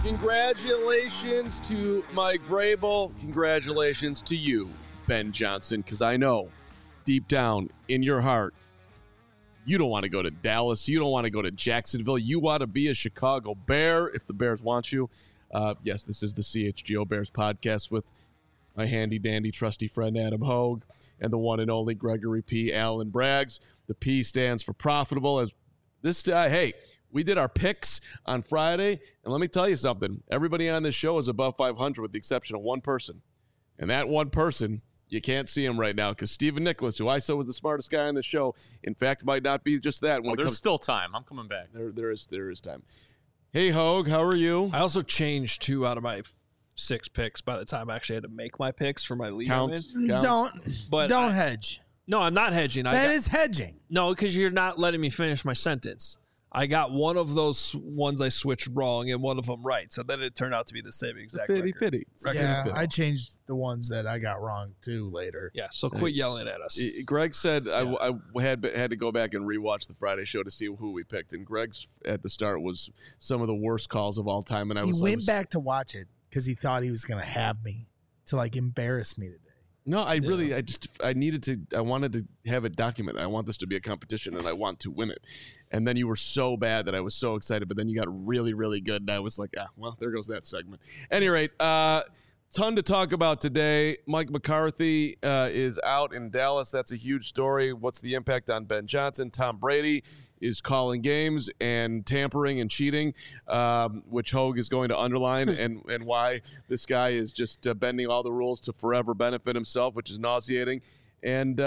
Congratulations to Mike Vrabel. Congratulations to you, Ben Johnson, because I know deep down in your heart, you don't want to go to Dallas. You don't want to go to Jacksonville. You want to be a Chicago Bear if the Bears want you. Yes, this is the CHGO Bears podcast with my handy-dandy trusty friend Adam Hogue and the one and only Gregory P. Allen Braggs. The P stands for profitable. As this, hey, we did our picks on Friday, and let me tell you something. Everybody on this show is above 500 with the exception of one person. And that one person, you can't see him right now because Stephen Nicholas, who I said was the smartest guy on the show, in fact, might not be just that. Well, there's still time. I'm coming back. There is time. Hey, Hogue, how are you? I also changed 2 out of my 6 picks by the time I actually had to make my picks for my league. Counts. Don't hedge. No, I'm not hedging. That is hedging. No, because you're not letting me finish my sentence. I got one of those ones I switched wrong and one of them right. So then it turned out to be the same exact Fitty. Yeah, I changed the ones that I got wrong too later. Yeah, so quit yelling at us. Greg said I had to go back and rewatch the Friday show to see who we picked. And Greg's at the start was some of the worst calls of all time. And he went back to watch it because he thought he was going to have me to like embarrass me today. No, I wanted to have it documented. I want this to be a competition and I want to win it. And then you were so bad that I was so excited, but then you got really, really good. And I was like, well, there goes that segment. At any rate, ton to talk about today. Mike McCarthy is out in Dallas. That's a huge story. What's the impact on Ben Johnson? Tom Brady is calling games and tampering and cheating, which Hogue is going to underline, and why this guy is just bending all the rules to forever benefit himself, which is nauseating. And,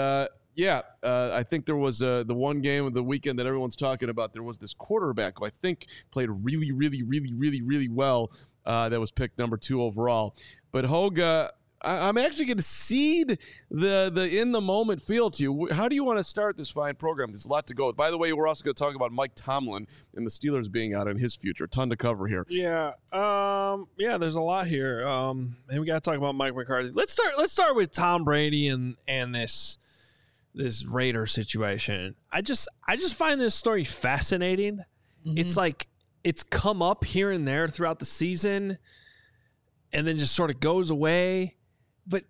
I think there was the one game of the weekend that everyone's talking about. There was this quarterback who I think played really, really, really, really, really well that was picked number 2 overall. But Hogue, I'm actually going to cede the in-the-moment feel to you. How do you want to start this fine program? There's a lot to go with. By the way, we're also going to talk about Mike Tomlin and the Steelers being out in his future. Ton to cover here. Yeah, there's a lot here. And we got to talk about Mike McCarthy. Let's start with Tom Brady and this Raider situation. I just find this story fascinating. Mm-hmm. It's like it's come up here and there throughout the season and then just sort of goes away. But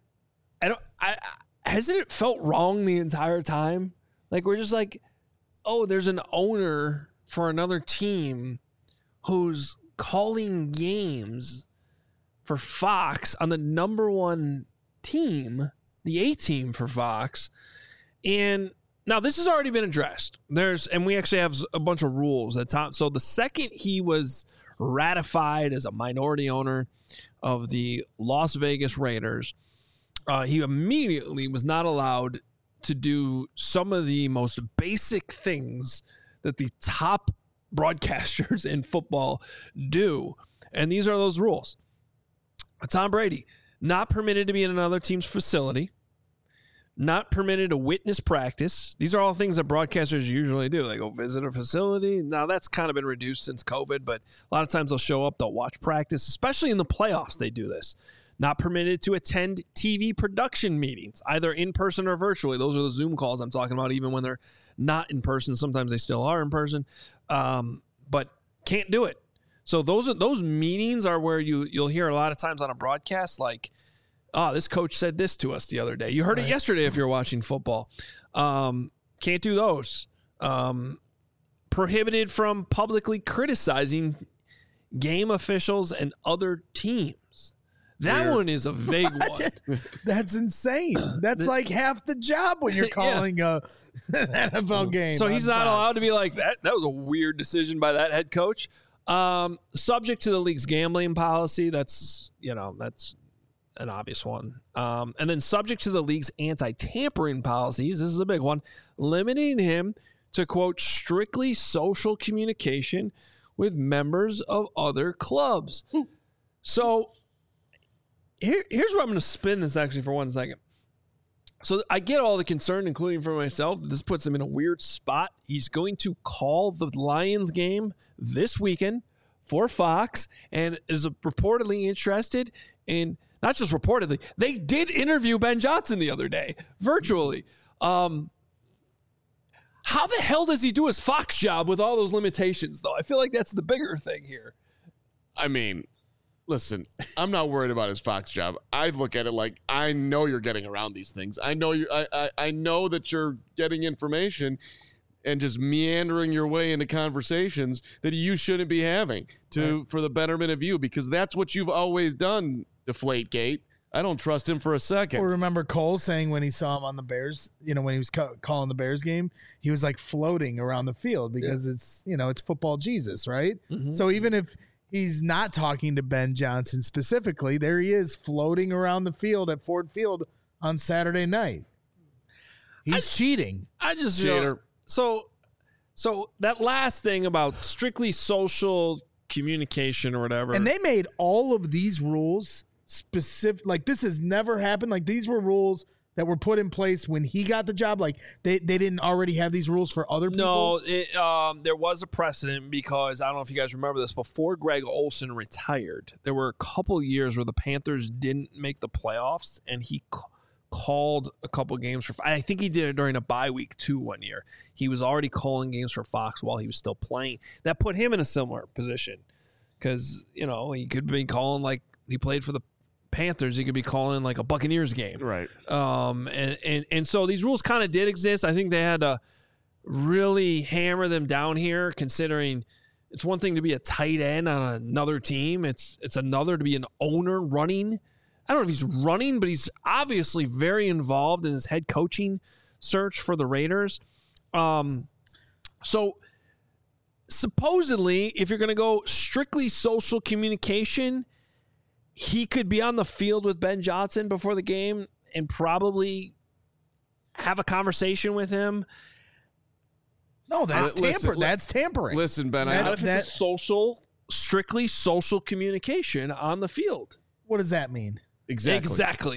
hasn't it felt wrong the entire time? Like we're just like, oh, there's an owner for another team who's calling games for Fox on the number 1 team, the A team for Fox. And now this has already been addressed. And we actually have a bunch of rules. So the second he was ratified as a minority owner of the Las Vegas Raiders, he immediately was not allowed to do some of the most basic things that the top broadcasters in football do. And these are those rules. Tom Brady, not permitted to be in another team's facility, not permitted to witness practice. These are all things that broadcasters usually do. They go visit a facility. Now, that's kind of been reduced since COVID, but a lot of times they'll show up, they'll watch practice, especially in the playoffs they do this. Not permitted to attend TV production meetings, either in person or virtually. Those are the Zoom calls I'm talking about, even when they're not in person. Sometimes they still are in person, but can't do it. So those meetings are where you'll hear a lot of times on a broadcast like, oh, this coach said this to us the other day. You heard it yesterday if you're watching football. Can't do those. Prohibited from publicly criticizing game officials and other teams. That one is a vague one. That's insane. That's like half the job when you're calling an NFL game. So he's not allowed to be like, that was a weird decision by that head coach. Subject to the league's gambling policy. That's an obvious one. And then subject to the league's anti-tampering policies, this is a big one, limiting him to, quote, strictly social communication with members of other clubs. So here's where I'm going to spin this actually for 1 second. So I get all the concern, including for myself. This puts him in a weird spot. He's going to call the Lions game this weekend for Fox and is reportedly interested in, not just reportedly, they did interview Ben Johnson the other day, virtually. How the hell does he do his Fox job with all those limitations, though? I feel like that's the bigger thing here. I mean, Listen, I'm not worried about his Fox job. I look at it like I know you're getting around these things. I know I know that you're getting information and just meandering your way into conversations that you shouldn't be having for the betterment of you, because that's what you've always done, Deflategate. I don't trust him for a second. Well, remember Cole saying when he saw him on the Bears, when he was calling the Bears game, he was like floating around the field because it's football Jesus, right? Mm-hmm. So even if he's not talking to Ben Johnson specifically, there he is floating around the field at Ford Field on Saturday night. He's cheating. I just Cheater. So that last thing about strictly social communication or whatever. And they made all of these rules specific. Like, this has never happened. Like, these were rules that were put in place when he got the job. Like, they didn't already have these rules for other people. No, there was a precedent because I don't know if you guys remember this. Before Greg Olson retired, there were a couple years where the Panthers didn't make the playoffs, and he called a couple games for. I think he did it during a bye week too. One year, he was already calling games for Fox while he was still playing. That put him in a similar position because he could be calling, like, he played for the Panthers, he could be calling like a Buccaneers game, Right. And so these rules kind of did exist. I think they had to really hammer them down here, considering it's one thing to be a tight end on another team. It's another to be an owner running. I don't know if he's running, but he's obviously very involved in his head coaching search for the Raiders. So supposedly, if you're going to go strictly social communication, he could be on the field with Ben Johnson before the game and probably have a conversation with him. No, that's that's tampering. Listen, Ben, Not if it's a strictly social communication on the field. What does that mean? Exactly.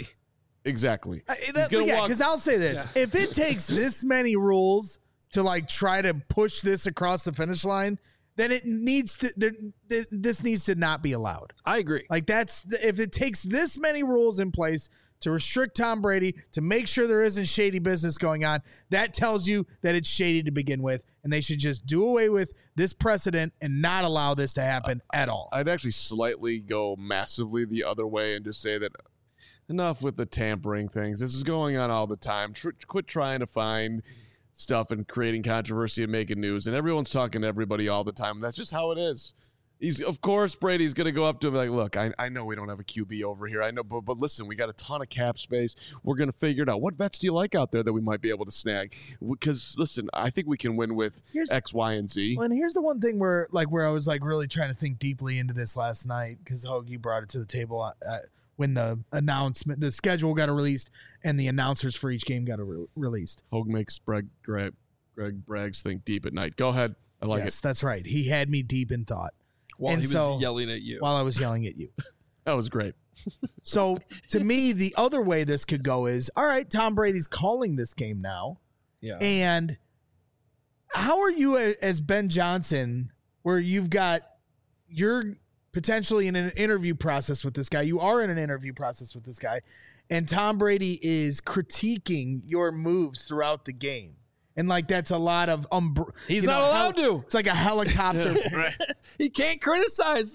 Because I'll say this. Yeah. If it takes this many rules to like try to push this across the finish line, then it needs to. This needs to not be allowed. I agree. Like if it takes this many rules in place to restrict Tom Brady, to make sure there isn't shady business going on, that tells you that it's shady to begin with, and they should just do away with this precedent and not allow this to happen at all. I'd actually slightly go massively the other way and just say that enough with the tampering things. This is going on all the time. Quit trying to find stuff and creating controversy and making news, and everyone's talking to everybody all the time. That's just how it is. Of course, Brady's going to go up to him like, look, I know we don't have a QB over here. I know, but listen, we got a ton of cap space. We're going to figure it out. What vets do you like out there that we might be able to snag? Because, listen, I think we can win with X, Y, and Z. Well, and here's the one thing where I was like really trying to think deeply into this last night because Hoagie brought it to the table when the schedule got released and the announcers for each game got released. Hoagie makes Greg Braggs think deep at night. Go ahead. I like it. Yes, that's right. He had me deep in thought. While he was yelling at you. While I was yelling at you. That was great. So, to me, the other way this could go is, all right, Tom Brady's calling this game now. Yeah. And how are you as Ben Johnson, where you're potentially in an interview process with this guy. You are in an interview process with this guy. And Tom Brady is critiquing your moves throughout the game. And like that's a lot of he's not allowed to. It's like a helicopter. He can't criticize.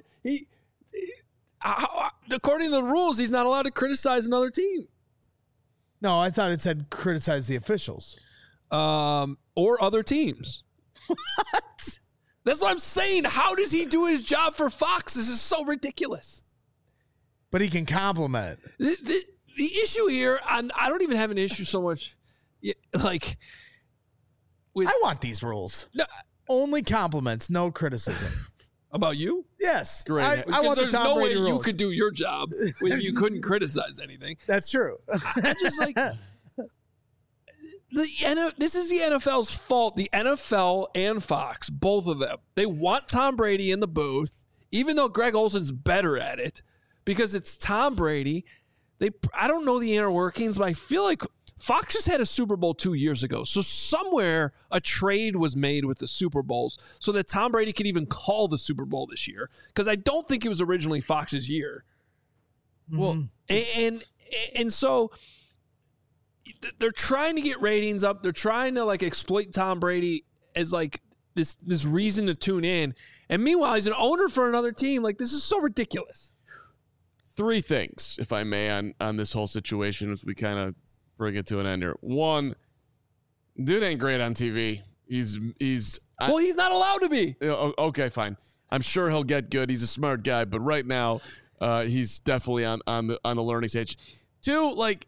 According to the rules, he's not allowed to criticize another team. No, I thought it said criticize the officials. Or other teams. What? That's what I'm saying. How does he do his job for Fox? This is so ridiculous. But he can compliment. The issue here, I don't even have an issue so much like. I want these rules. No, only compliments, no criticism. About you? Yes. Great. I want the Tom Brady rules. You could do your job when you couldn't criticize anything. That's true. I just like this is the NFL's fault. The NFL and Fox, both of them, they want Tom Brady in the booth, even though Greg Olson's better at it, because it's Tom Brady. I don't know the inner workings, but I feel like Fox just had a Super Bowl 2 years ago. So somewhere a trade was made with the Super Bowls so that Tom Brady could even call the Super Bowl this year. Because I don't think it was originally Fox's year. Mm-hmm. Well, and so they're trying to get ratings up. They're trying to like exploit Tom Brady as like this reason to tune in. And meanwhile, he's an owner for another team. Like, this is so ridiculous. 3 things, if I may, on this whole situation as we kind of bring it to an end here. 1, dude ain't great on TV. He's not allowed to be. Okay, fine. I'm sure he'll get good. He's a smart guy, but right now, he's definitely on the learning stage. 2, like,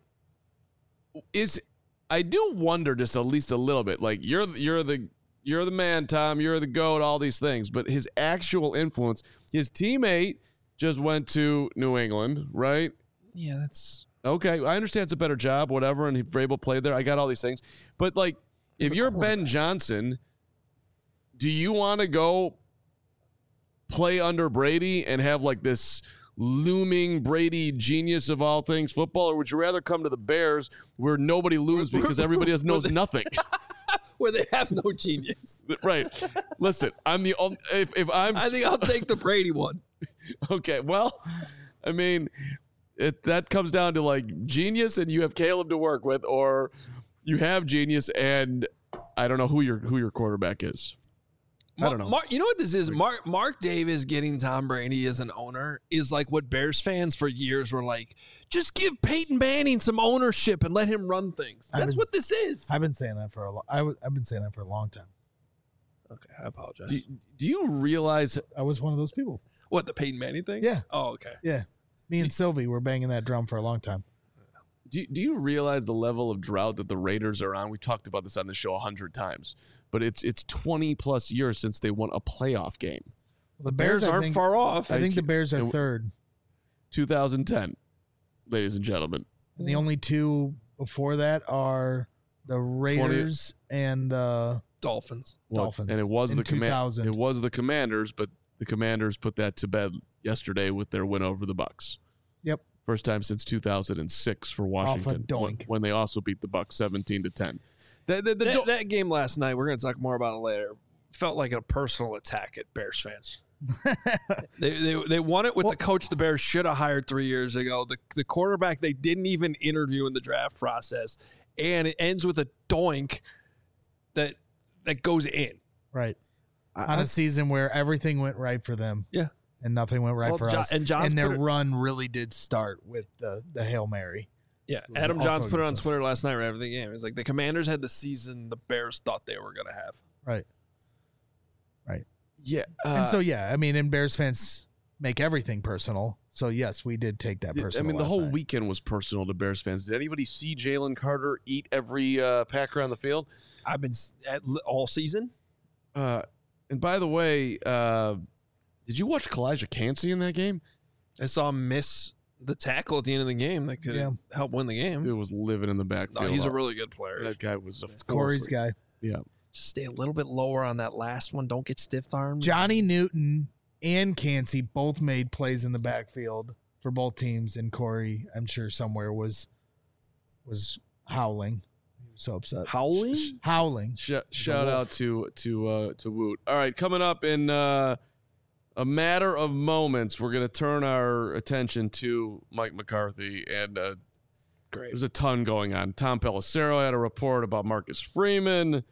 I do wonder just at least a little bit. Like, you're the man, Tom. You're the GOAT. All these things, but his actual influence. His teammate just went to New England, right? Yeah, that's okay. I understand it's a better job, whatever, and Vrabel played there. I got all these things, but like, if you're Ben Johnson, do you want to go play under Brady and have like this looming Brady genius of all things football, or would you rather come to the Bears where nobody loses because everybody else knows nothing? Where they have no genius. Right. Listen, I'm the only. I think I'll take the Brady one. Okay. Well, I mean, that comes down to like genius, and you have Caleb to work with, or you have genius, and I don't know who your quarterback is. I don't know. You know what this is? Mark Davis getting Tom Brady as an owner is like what Bears fans for years were like, just give Peyton Manning some ownership and let him run things. That's what this is. I've been saying that for I've been saying that for a long time. Okay, I apologize. Do you realize I was one of those people? What, the Peyton Manning thing? Yeah. Oh, okay. Yeah. Me and Sylvie were banging that drum for a long time. Do you realize the level of drought that the Raiders are on? We talked about this on the show 100 times. But it's 20 plus years since they won a playoff game. The Bears aren't far off. I think the Bears are third. 2010, ladies and gentlemen. And the only 2 before that are the Raiders and the Dolphins. Dolphins. And it was the 2000. It was the Commanders, but the Commanders put that to bed yesterday with their win over the Bucks. Yep. First time since 2006 for Washington, when they also beat the Bucks 17-10. That game last night, we're going to talk more about it later, felt like a personal attack at Bears fans. They won it with the coach the Bears should have hired 3 years ago, the quarterback they didn't even interview in the draft process, and it ends with a doink that goes in. Right. On a season where everything went right for them. Yeah. And nothing went right for us. And their run really did start with the Hail Mary. Yeah, Adam Johns put it on Twitter last night right after the game. It was like the Commanders had the season the Bears thought they were going to have. Right. Yeah. I mean, and Bears fans make everything personal. So, yes, we did take that personal. I mean, the whole weekend was personal to Bears fans. Did anybody see Jalen Carter eat every Packer on the field? I've been all season. And by the way, did you watch Kalijah Kancey in that game? I saw him miss the tackle at the end of the game that could help win the game. It was living in the backfield. No, he's a really good player. That guy was Corey's guy. Yeah. Just stay a little bit lower on that last one. Don't get stiff-armed. Johnny Newton and Kancey both made plays in the backfield for both teams, and Corey, I'm sure somewhere was howling. He was so upset. Howling? Shout out to Woot. All right, coming up in a matter of moments, we're going to turn our attention to Mike McCarthy, and great. There's a ton going on. Tom Pelissero had a report about Marcus Freeman.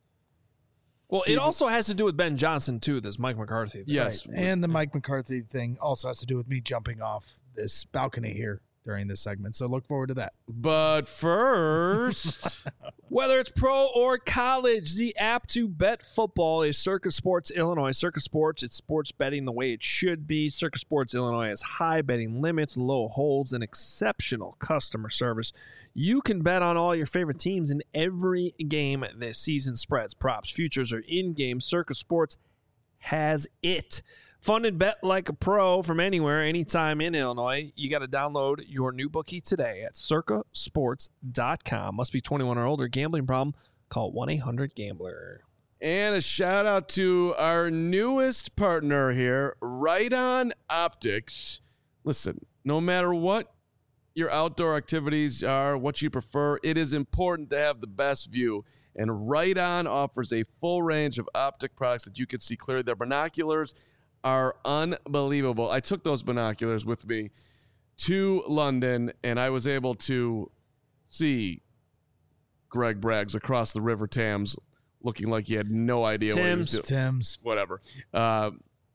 Well, it also has to do with Ben Johnson, too, this Mike McCarthy thing. Yes. Right. And the Mike McCarthy thing also has to do with me jumping off this balcony here during this segment. So look forward to that. But first, whether it's pro or college, the app to bet football is Circa Sports Illinois. Circa Sports, it's sports betting the way it should be. Circa Sports Illinois has high betting limits, low holds, and exceptional customer service. You can bet on all your favorite teams in every game this season. Spreads, props, futures, or in-game. Circa Sports has it. Fun and bet like a pro from anywhere, anytime in Illinois. You got to download your new bookie today at circasports.com. Must be 21 or older. Gambling problem? Call 1-800-GAMBLER. And a shout out to our newest partner here, Right On Optics. Listen, no matter what your outdoor activities are, what you prefer, it is important to have the best view. And Right On offers a full range of optic products that you can see clearly. Their binoculars are unbelievable. I took those binoculars with me to London, and I was able to see Greg Braggs across the River Thames looking like he had no idea what he was doing. Thames. Whatever.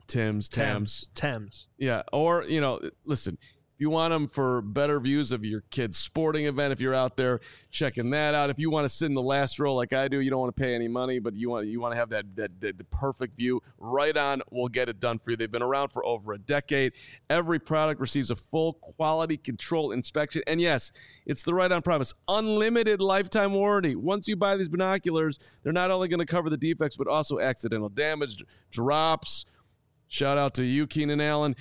Thames. Yeah. Or, listen, if you want them for better views of your kid's sporting event, if you're out there checking that out, if you want to sit in the last row like I do, you don't want to pay any money, but you want to have the perfect view, Right On will get it done for you. They've been around for over a decade. Every product receives a full quality control inspection. And yes, it's the Right On promise. Unlimited lifetime warranty. Once you buy these binoculars, they're not only going to cover the defects, but also accidental damage, drops. Shout out to you, Keenan Allen.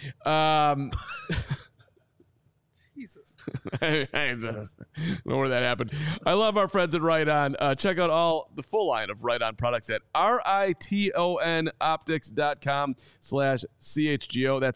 Jesus. I don't know where that happened. I love our friends at Right On. Check out the full line of Right On products at ritonoptics.com/CHGO. That's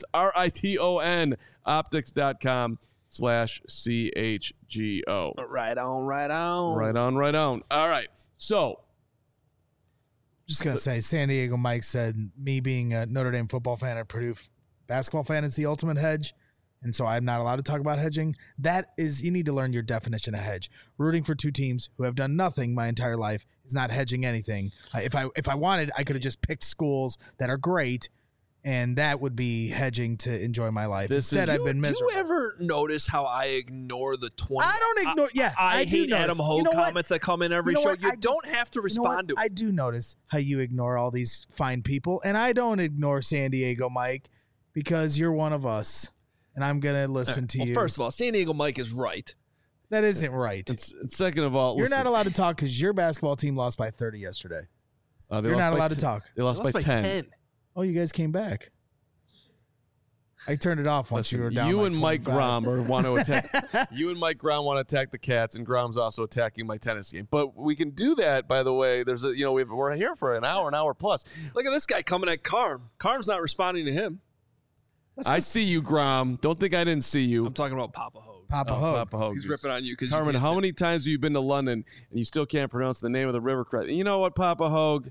ritonoptics.com/CHGO. Right on. Right on. All right. So, Just going to say, San Diego Mike said, me being a Notre Dame football fan and Purdue basketball fan is the ultimate hedge. And so I'm not allowed to talk about hedging. That is, you need to learn your definition of hedge. Rooting for two teams who have done nothing my entire life is not hedging anything. If I wanted, I could have just picked schools that are great, and that would be hedging to enjoy my life. Instead, I've been miserable. Do you ever notice how I ignore the 20? I don't ignore. I do hate notice. Adam Hogue comments that come in every show. You don't have to respond to it. I do notice how you ignore all these fine people, and I don't ignore San Diego Mike because you're one of us. And I'm going to listen to you. First of all, San Diego Mike is right. That isn't right. And second of all, you're not allowed to talk because your basketball team lost by 30 yesterday. You're not allowed to talk. They lost by 10. Oh, you guys came back. I turned it off once you were down. You like and Mike 25. Grom want to attack. You and Mike Grom want to attack the Cats, and Grom's also attacking my tennis game. But we can do that. By the way, we're here for an hour plus. Look at this guy coming at Carm. Carm's not responding to him. I see you, Grom. Don't think I didn't see you. I'm talking about Papa Hogue. Papa Hogue. He's ripping on you because Carmen, how many times have you been to London and you still can't pronounce the name of the river correctly? You know what, Papa Hogue?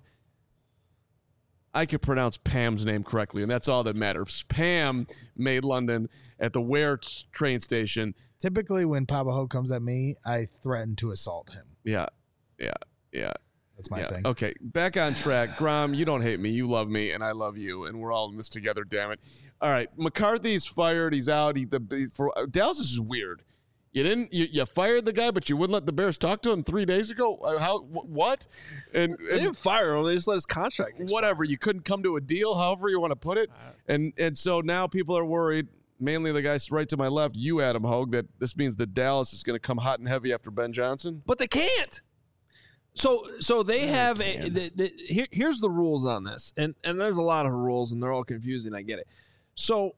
I could pronounce Pam's name correctly, and that's all that matters. Pam made London at the Ware train station. Typically, when Papa Hogue comes at me, I threaten to assault him. Yeah. That's my thing. Okay, back on track. Grom, you don't hate me. You love me, and I love you, and we're all in this together, damn it. All right, McCarthy's fired. He's out. Dallas is just weird. You fired the guy, but you wouldn't let the Bears talk to him 3 days ago? What? And they didn't fire him. They just let his contract expire. Whatever. You couldn't come to a deal, however you want to put it. And so now people are worried, mainly the guys right to my left, you, Adam Hogue, that this means that Dallas is going to come hot and heavy after Ben Johnson. But they can't. So they have here's the rules on this, and there's a lot of rules, and they're all confusing. I get it. So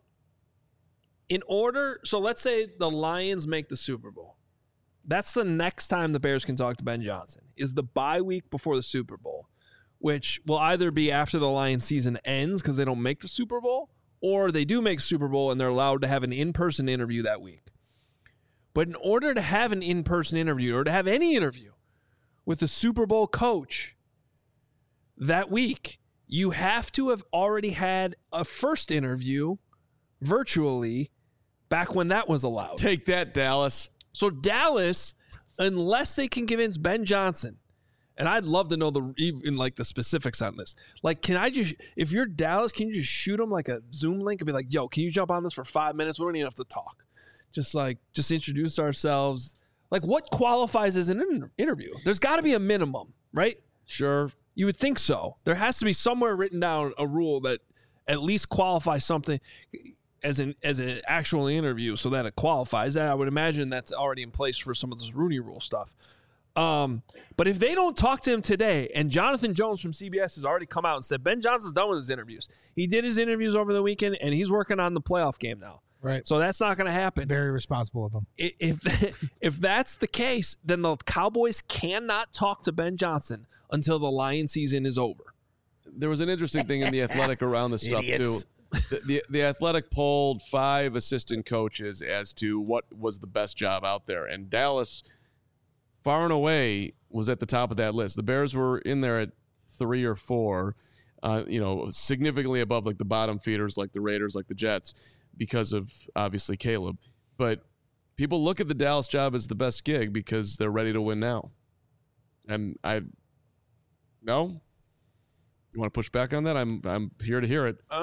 let's say the Lions make the Super Bowl. That's the next time the Bears can talk to Ben Johnson. Is the bye week before the Super Bowl, which will either be after the Lions season ends because they don't make the Super Bowl, or they do make Super Bowl and they're allowed to have an in-person interview that week. But in order to have an in-person interview or to have any interview with the Super Bowl coach that week, you have to have already had a first interview virtually back when that was allowed. Take that, Dallas. So Dallas, unless they can convince Ben Johnson, and I'd love to know the specifics on this. Like, if you're Dallas, can you just shoot them like a Zoom link and be like, yo, can you jump on this for 5 minutes? We don't even have to talk. Just introduce ourselves. Like, what qualifies as an interview? There's got to be a minimum, right? Sure. You would think so. There has to be somewhere written down a rule that at least qualifies something as an actual interview so that it qualifies. I would imagine that's already in place for some of this Rooney Rule stuff. But if they don't talk to him today, and Jonathan Jones from CBS has already come out and said Ben Johnson's done with his interviews. He did his interviews over the weekend, and he's working on the playoff game now. Right. So that's not going to happen. Very responsible of him. If that's the case, then the Cowboys cannot talk to Ben Johnson until the Lions season is over. There was an interesting thing in The Athletic around this stuff, too. The Athletic polled 5 assistant coaches as to what was the best job out there. And Dallas, far and away, was at the top of that list. The Bears were in there at 3 or 4, significantly above like the bottom feeders like the Raiders, like the Jets, because of, obviously, Caleb. But people look at the Dallas job as the best gig because they're ready to win now. And no? You want to push back on that? I'm here to hear it. I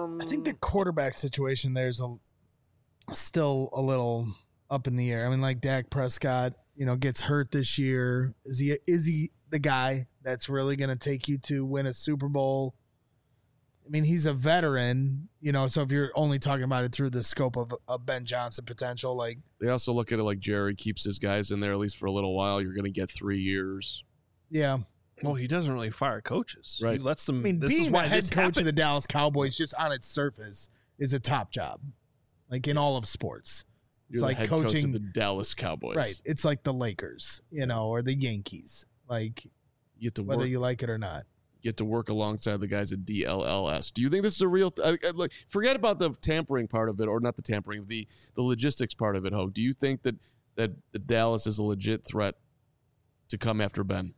I think the quarterback situation there's still a little up in the air. I mean, like Dak Prescott, gets hurt this year. Is he the guy that's really going to take you to win a Super Bowl? I mean, he's a veteran, so if you're only talking about it through the scope of Ben Johnson potential, like They also look at it like Jerry keeps his guys in there at least for a little while. You're going to get 3 years. yeah. Well, he doesn't really fire coaches. Right. He lets them. I mean, this being is the why head this coach happened. of the Dallas Cowboys, just on its surface, is a top job, like in all of sports. You're It's the like head coach coaching of the Dallas Cowboys. Right. It's like the Lakers, or the Yankees, like You get to whether work. you like it or not. Get to work alongside the guys at DLLS. Do you think this is a real? Like, forget about the tampering part of it, or not the tampering, the logistics part of it. Hogue, do you think that the Dallas is a legit threat to come after Ben?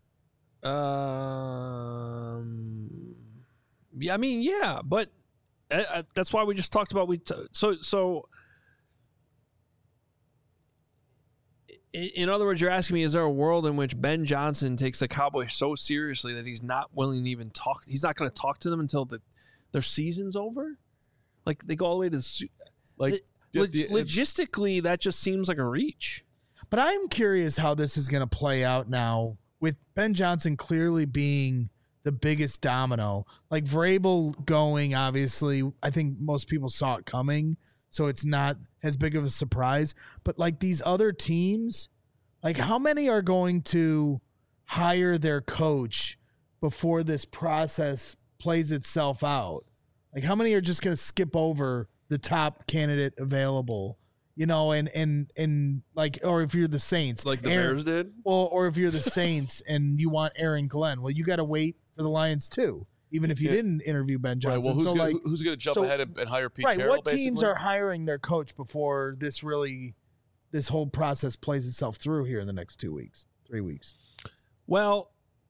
Yeah, I mean, yeah, but that's why we just talked about so. In other words, you're asking me: is there a world in which Ben Johnson takes the Cowboys so seriously that he's not willing to even talk? He's not going to talk to them until their season's over. Like they go all the way to logistically, that just seems like a reach. But I'm curious how this is going to play out now with Ben Johnson clearly being the biggest domino. Like Vrabel going, obviously, I think most people saw it coming, so it's not as big of a surprise. But like these other teams, like how many are going to hire their coach before this process plays itself out? Like how many are just going to skip over the top candidate available? And like, or if you're the Saints, Like the Bears did? Well, or if you're the Saints and you want Aaron Glenn, well, you got to wait for the Lions too, even if you didn't interview Ben Right. Johnson. Well, So, who's going to jump ahead and hire Pete right? Carroll? What teams basically? are hiring their coach before this whole process plays itself through here in the next 3 weeks? Well,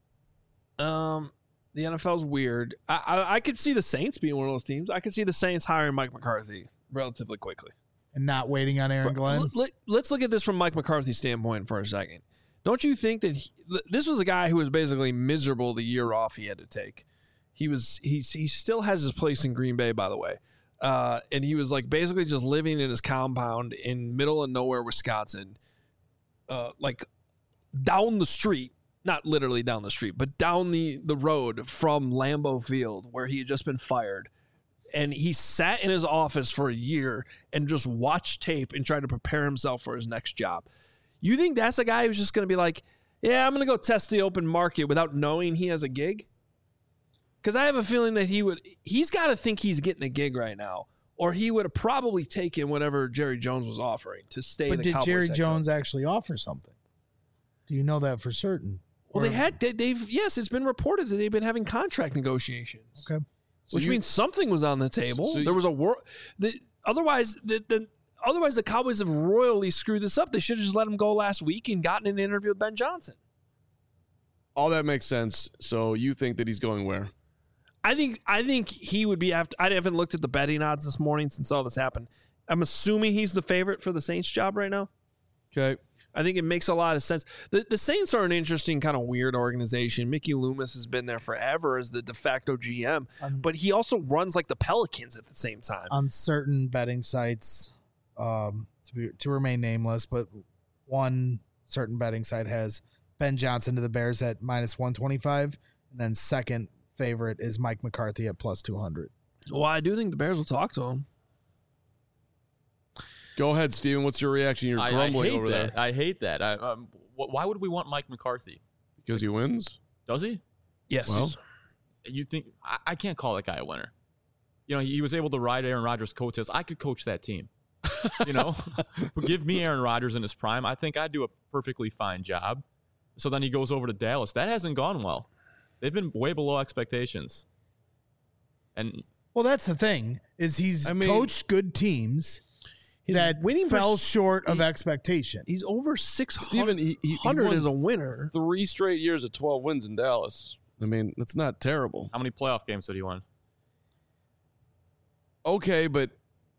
the NFL's weird. I could see the Saints being one of those teams. I could see the Saints hiring Mike McCarthy relatively quickly. And not waiting on Aaron Glenn. Let's look at this from Mike McCarthy's standpoint for a second. Don't you think that this was a guy who was basically miserable the year off he had to take? He still has his place in Green Bay, by the way. And he was like basically just living in his compound in middle of nowhere, Wisconsin, like down the street, not literally down the street, but down the road from Lambeau Field where he had just been fired. And he sat in his office for a year and just watched tape and tried to prepare himself for his next job. You think that's a guy who's just going to be like, yeah, I'm going to go test the open market without knowing he has a gig? Because I have a feeling that he's got to think he's getting a gig right now, or he would have probably taken whatever Jerry Jones was offering to stay. But did Jerry Jones actually offer something? Do you know that for certain? Well, yes, it's been reported that they've been having contract negotiations. Okay. Which means something was on the table. There was a war. Otherwise, the Cowboys have royally screwed this up. They should have just let him go last week and gotten an interview with Ben Johnson. All that makes sense. So you think that he's going where? I think he would be after. I haven't looked at the betting odds this morning since all this happened. I'm assuming he's the favorite for the Saints job right now. Okay. I think it makes a lot of sense. The Saints are an interesting kind of weird organization. Mickey Loomis has been there forever as the de facto GM, but he also runs like the Pelicans at the same time. On certain betting sites, to remain nameless, but one certain betting site has Ben Johnson to the Bears at -125, and then second favorite is Mike McCarthy at +200. Well, I do think the Bears will talk to him. Go ahead, Steven. What's your reaction? You're grumbling over there. I hate that. Why would we want Mike McCarthy? Because he wins? Does he? Yes. Well, You think I can't call that guy a winner? He was able to ride Aaron Rodgers' coattails. I could coach that team. Give me Aaron Rodgers in his prime. I think I'd do a perfectly fine job. So then he goes over to Dallas. That hasn't gone well. They've been way below expectations. And well, that's the thing is he's coached good teams that fell short of expectation. He's over 600. Steven, he 100 is a winner. 3 straight years of 12 wins in Dallas. I mean, that's not terrible. how many playoff games did he win? Okay, but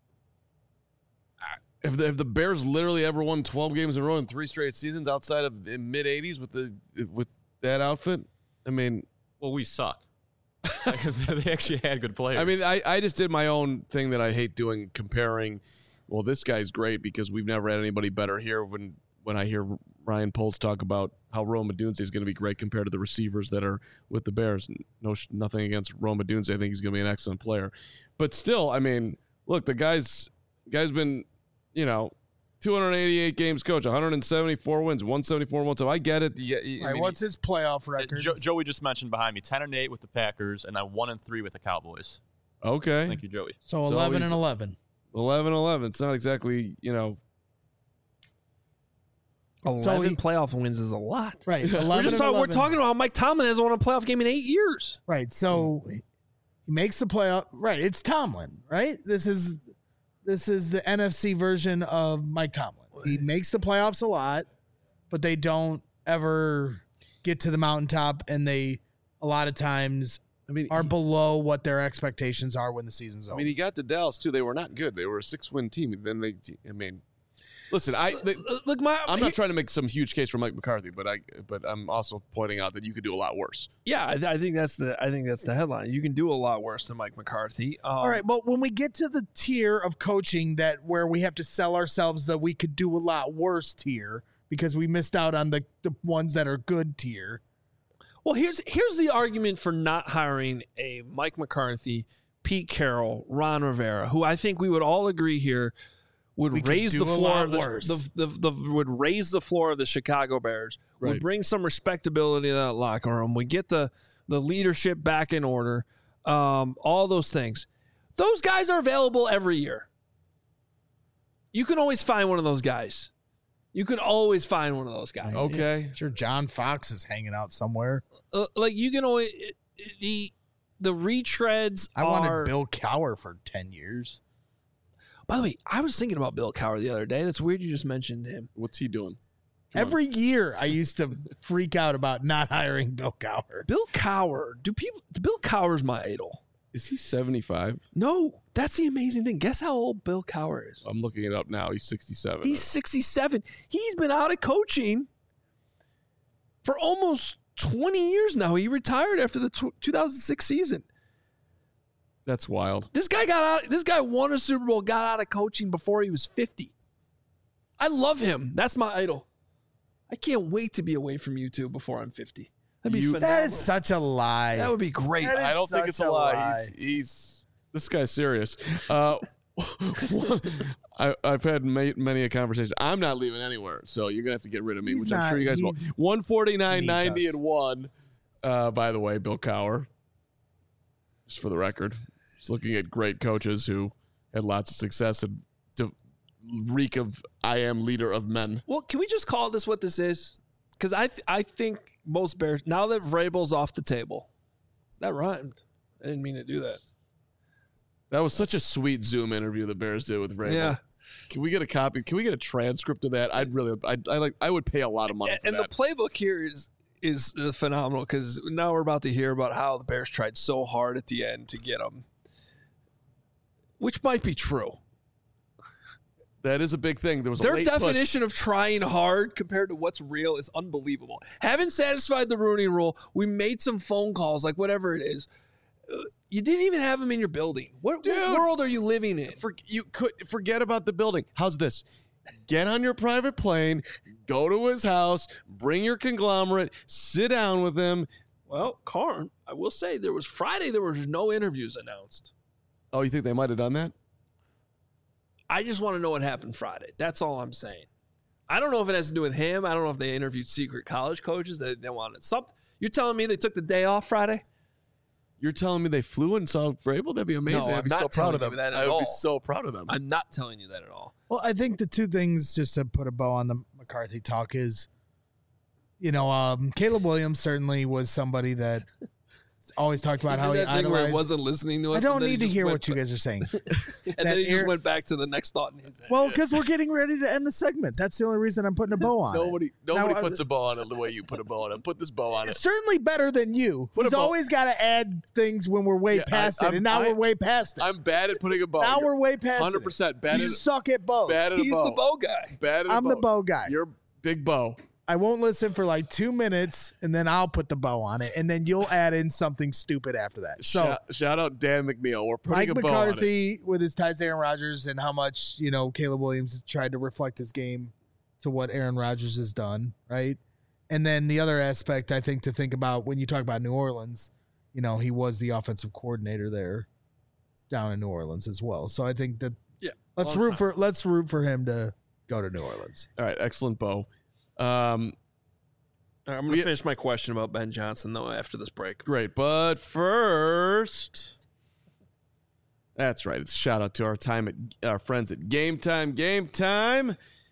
if the Bears literally ever won 12 games in a row in 3 straight seasons outside of mid-'80s with that outfit, I mean, Well, we suck. They actually had good players. I mean, I just did my own thing that I hate doing, comparing. Well, this guy's great because we've never had anybody better here. When I hear Ryan Poles talk about how Rome Odunze is going to be great compared to the receivers that are with the Bears. Nothing against Rome Odunze. I think he's going to be an excellent player. But still, I mean, look, the guy's been, 288 games coach, 174 wins, 174 one time. I get it. What's his playoff record? Joey just mentioned behind me 10-8 with the Packers and then 1-3 with the Cowboys. Okay. Thank you, Joey. So 11 and 11. 11. It's not exactly, 11 playoff wins is a lot. Right. 11 we're talking about how Mike Tomlin hasn't won a playoff game in 8 years. Right. So he makes the playoff. Right. It's Tomlin, right? This is the NFC version of Mike Tomlin. He makes the playoffs a lot, but they don't ever get to the mountaintop, and they a lot of times are below what their expectations are when the season's over. He got to Dallas too. They were not good. They were a 6-win team. Then listen, I'm not trying to make some huge case for Mike McCarthy, but I'm also pointing out that you could do a lot worse. Yeah, I think that's the headline. You can do a lot worse than Mike McCarthy. All right, but when we get to the tier of coaching where we have to sell ourselves that we could do a lot worse tier because we missed out on the ones that are good tier. Well, here's the argument for not hiring a Mike McCarthy, Pete Carroll, Ron Rivera, who I think we would all agree here would raise the floor of would raise the floor of the Chicago Bears, would bring some respectability to that locker room, would get the leadership back in order, all those things. Those guys are available every year. You can always find one of those guys. Okay. Sure, John Fox is hanging out somewhere. You can always the retreads. I wanted Bill Cowher for 10 years. By the way, I was thinking about Bill Cowher the other day. That's weird you just mentioned him. What's he doing? Every year I used to freak out about not hiring Bill Cowher. Bill Cowher. Bill Cowher's my idol. Is he 75? No, that's the amazing thing. Guess how old Bill Cowher is? I'm looking it up now. He's 67. He's 67. He's been out of coaching for almost 20 years now. He retired after the 2006 season. That's wild. This guy won a Super Bowl, got out of coaching before he was 50. I love him. That's my idol. I can't wait to be away from you two before I'm 50. That'd be phenomenal. That is such a lie. That would be great. I don't think it's a lie. He's this guy's serious. I've had many a conversation. I'm not leaving anywhere, so you're gonna have to get rid of me, which I'm sure you guys will. 149, 90, and 1. By the way, Bill Cowher. Just for the record, just looking at great coaches who had lots of success and to reek of I am leader of men. Well, can we just call this what this is? Because I think most Bears, now that Vrabel's off the table, that rhymed. I didn't mean to do that. That was such a sweet Zoom interview the Bears did with Vrabel. Yeah. Can we get a copy? Can we get a transcript of that? I would pay a lot of money for that. And the playbook here is phenomenal because now we're about to hear about how the Bears tried so hard at the end to get him, which might be true. That is a big thing. There was their a late definition of trying hard compared to what's real is unbelievable. Haven't satisfied the Rooney Rule. We made some phone calls, like whatever it is. You didn't even have him in your building. What world are you living in? Forget about the building. How's this? Get on your private plane, go to his house, bring your conglomerate, sit down with him. Well, Karn, I will say there was no interviews announced. Oh, you think they might have done that? I just want to know what happened Friday. That's all I'm saying. I don't know if it has to do with him. I don't know if they interviewed secret college coaches that they wanted something. You're telling me they took the day off Friday? You're telling me they flew and saw Vrabel? That'd be amazing. No, I'd be so proud of them. I would be so proud of them. I'm not telling you that at all. Well, I think the two things, just to put a bow on the McCarthy talk, is, Caleb Williams certainly was somebody that always talked about how he idolized. Where he wasn't listening to us. I don't need to hear what you guys are saying. And then he just went back to the next thought in his head. Well, because we're getting ready to end the segment. That's the only reason I'm putting a bow on it. Nobody puts a bow on it the way you put a bow on it. Put this bow on it. It's certainly better than you. He's always got to add things when we're way past it, and now we're way past it. I'm bad at putting a bow. Now we're way past 100% it. 100% bad. You suck at bows. He's the bow guy. Bad at I'm the bow guy. You're big bow. I won't listen for like 2 minutes, and then I'll put the bow on it, and then you'll add in something stupid after that. So shout out Dan McNeil. We're putting Mike a bow on it. McCarthy with his ties to Aaron Rodgers and how much, Caleb Williams tried to reflect his game to what Aaron Rodgers has done, right? And then the other aspect I think to think about when you talk about New Orleans, he was the offensive coordinator there down in New Orleans as well. So I think that let's root for him to go to New Orleans. All right, excellent, Bo. I'm going to finish my question about Ben Johnson, though, after this break. Great. But first, that's right. It's a shout out to our friends at Game Time,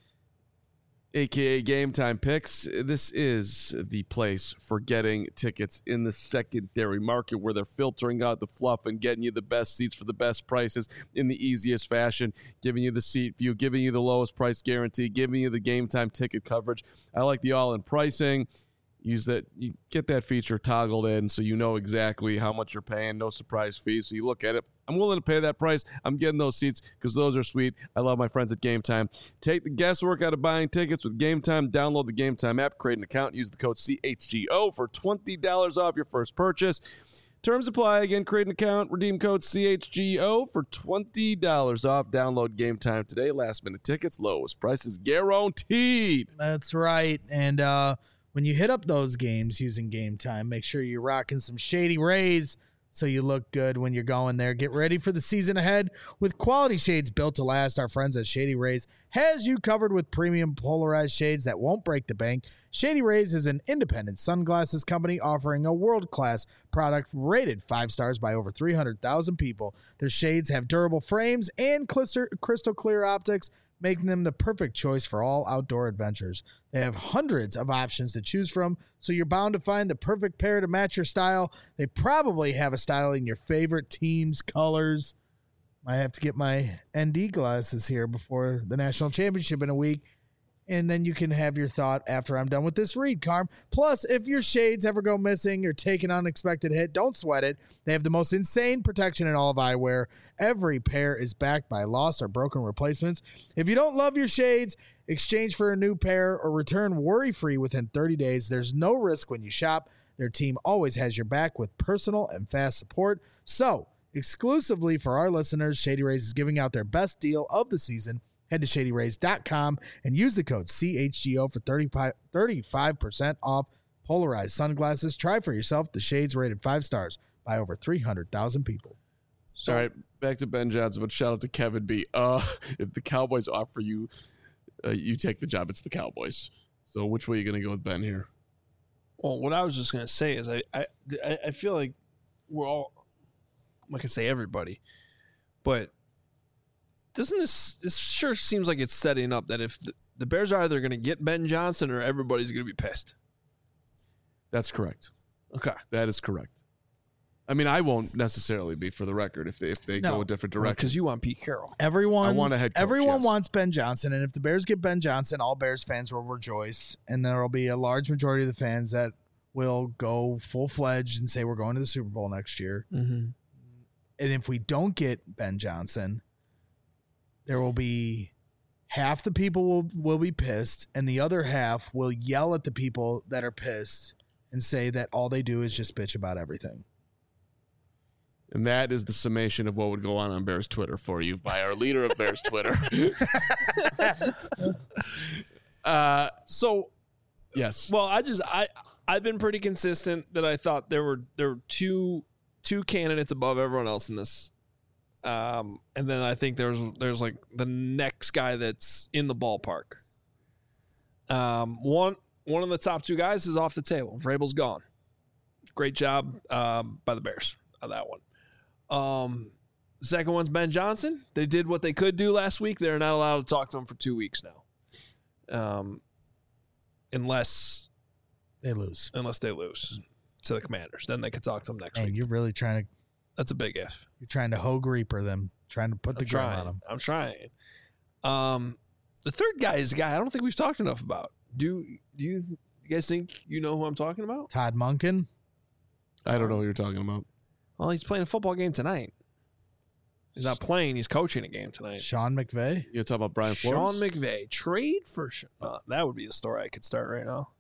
a.k.a. Game Time Picks. This is the place for getting tickets in the secondary market where they're filtering out the fluff and getting you the best seats for the best prices in the easiest fashion, giving you the seat view, giving you the lowest price guarantee, giving you the Game Time ticket coverage. I like the all-in pricing. You get that feature toggled in so you know exactly how much you're paying, no surprise fees. So you look at it. I'm willing to pay that price. I'm getting those seats because those are sweet. I love my friends at Game Time. Take the guesswork out of buying tickets with Game Time. Download the Game Time app, create an account, use the code CHGO for $20 off your first purchase. Terms apply. Again, create an account, redeem code CHGO for $20 off. Download Game Time today. Last minute tickets, lowest prices guaranteed. That's right. And when you hit up those games using Game Time, make sure you're rocking some Shady Rays so you look good when you're going there. Get ready for the season ahead with quality shades built to last. Our friends at Shady Rays has you covered with premium polarized shades that won't break the bank. Shady Rays is an independent sunglasses company offering a world-class product rated 5 stars by over 300,000 people. Their shades have durable frames and crystal clear optics, making them the perfect choice for all outdoor adventures. They have hundreds of options to choose from, so you're bound to find the perfect pair to match your style. They probably have a style in your favorite team's colors. I have to get my ND glasses here before the national championship in a week, and then you can have your thought after I'm done with this read, Carm. Plus, if your shades ever go missing or take an unexpected hit, don't sweat it. They have the most insane protection in all of eyewear. Every pair is backed by lost or broken replacements. If you don't love your shades, exchange for a new pair or return worry-free within 30 days. There's no risk when you shop. Their team always has your back with personal and fast support. So, exclusively for our listeners, Shady Rays is giving out their best deal of the season. Head to ShadyRays.com and use the code CHGO for 35% off polarized sunglasses. Try for yourself the shades rated 5 stars by over 300,000 people. All right, back to Ben Johnson, but shout out to Kevin B. If the Cowboys offer you, you take the job. It's the Cowboys. So which way are you going to go with Ben here? Well, what I was just going to say is I feel like we're all, I'm not going to say everybody, but doesn't this sure seems like it's setting up that if the Bears are either going to get Ben Johnson or everybody's going to be pissed. That's correct. Okay. That is correct. I mean, I won't necessarily be, for the record, if they go a different direction. Because you want Pete Carroll. Everyone, I want a head coach, everyone yes. wants Ben Johnson, and if the Bears get Ben Johnson, all Bears fans will rejoice, and there will be a large majority of the fans that will go full-fledged and say we're going to the Super Bowl next year. Mm-hmm. And if we don't get Ben Johnson, there will be half the people will be pissed, and the other half will yell at the people that are pissed and say that all they do is just bitch about everything. And that is the summation of what would go on Bears Twitter for you by our leader of Bears Twitter. So, yes. well, I've been pretty consistent that I thought there were two candidates above everyone else in this. And then I think there's like the next guy that's in the ballpark. One of the top 2 guys is off the table. Vrabel's gone. Great job by the Bears on that one. Second one's Ben Johnson. They did what they could do last week. They're not allowed to talk to him for 2 weeks now. Unless they lose to the Commanders. Then they could talk to him next And week. you're really trying to That's a big if. You're trying to Hogue Reaper them, trying to put the gun on them. I'm trying. The third guy is a guy I don't think we've talked enough about. Do you guys think you know who I'm talking about? Todd Monken. I don't know what you're talking about. Well, he's playing a football game tonight. He's not playing. He's coaching a game tonight. Sean McVay. You're talking about Brian Flores? Sean McVay. Trade for that would be a story I could start right now.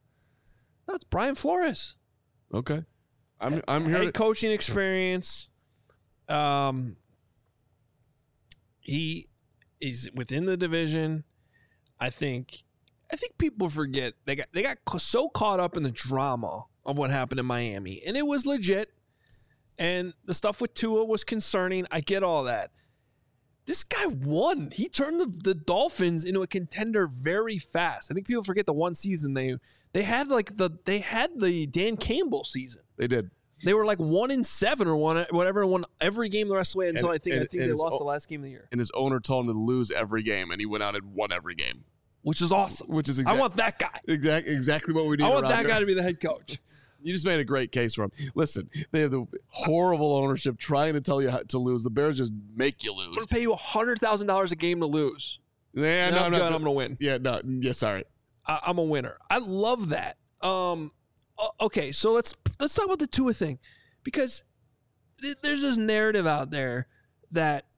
No, it's Brian Flores. Okay. I'm here. Head coaching experience. He is within the division. I think people forget they got so caught up in the drama of what happened in Miami, and it was legit. And the stuff with Tua was concerning. I get all that. This guy won. He turned the Dolphins into a contender very fast. I think people forget the one season they had the Dan Campbell season. They did. They were like 1-7 or won every game the rest of the way until I think they lost the last game of the year. And his owner told him to lose every game, and he went out and won every game, which is awesome. I want that guy. Exactly what we need. I want that guy to be the head coach. You just made a great case for him. Listen, they have the horrible ownership trying to tell you how to lose. The Bears just make you lose. I'm going to pay you $100,000 a game to lose. Yeah, I'm going to win. Yeah, no, yeah, sorry. I'm a winner. I love that. Okay, so let's talk about the Tua thing, because there's this narrative out there that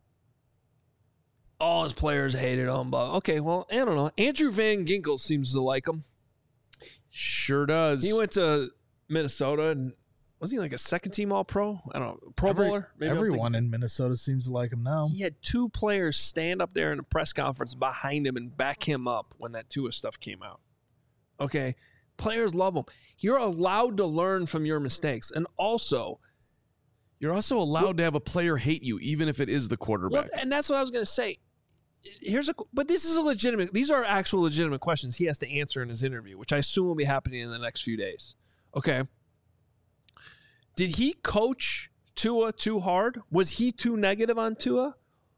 all his players hated him. But okay, well, I don't know. Andrew Van Ginkel seems to like him. Sure does. He went to Minnesota, and was he like a second-team All-Pro? I don't know. Pro Bowler? Maybe everyone in Minnesota seems to like him now. He had 2 players stand up there in a press conference behind him and back him up when that Tua stuff came out. Okay? Players love him. You're allowed to learn from your mistakes. And also, you're also allowed to have a player hate you, even if it is the quarterback. Well, and that's what I was going to say. But this is these are actual legitimate questions he has to answer in his interview, which I assume will be happening in the next few days. Okay. Did he coach Tua too hard? Was he too negative on Tua?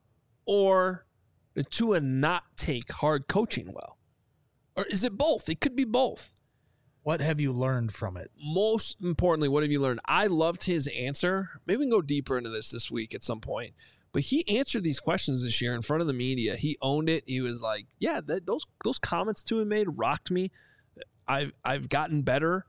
Or did Tua not take hard coaching well? Or is it both? It could be both. What have you learned from it? Most importantly, what have you learned? I loved his answer. Maybe we can go deeper into this week at some point. But he answered these questions this year in front of the media. He owned it. He was like, yeah, those comments Tua made rocked me. I've gotten better.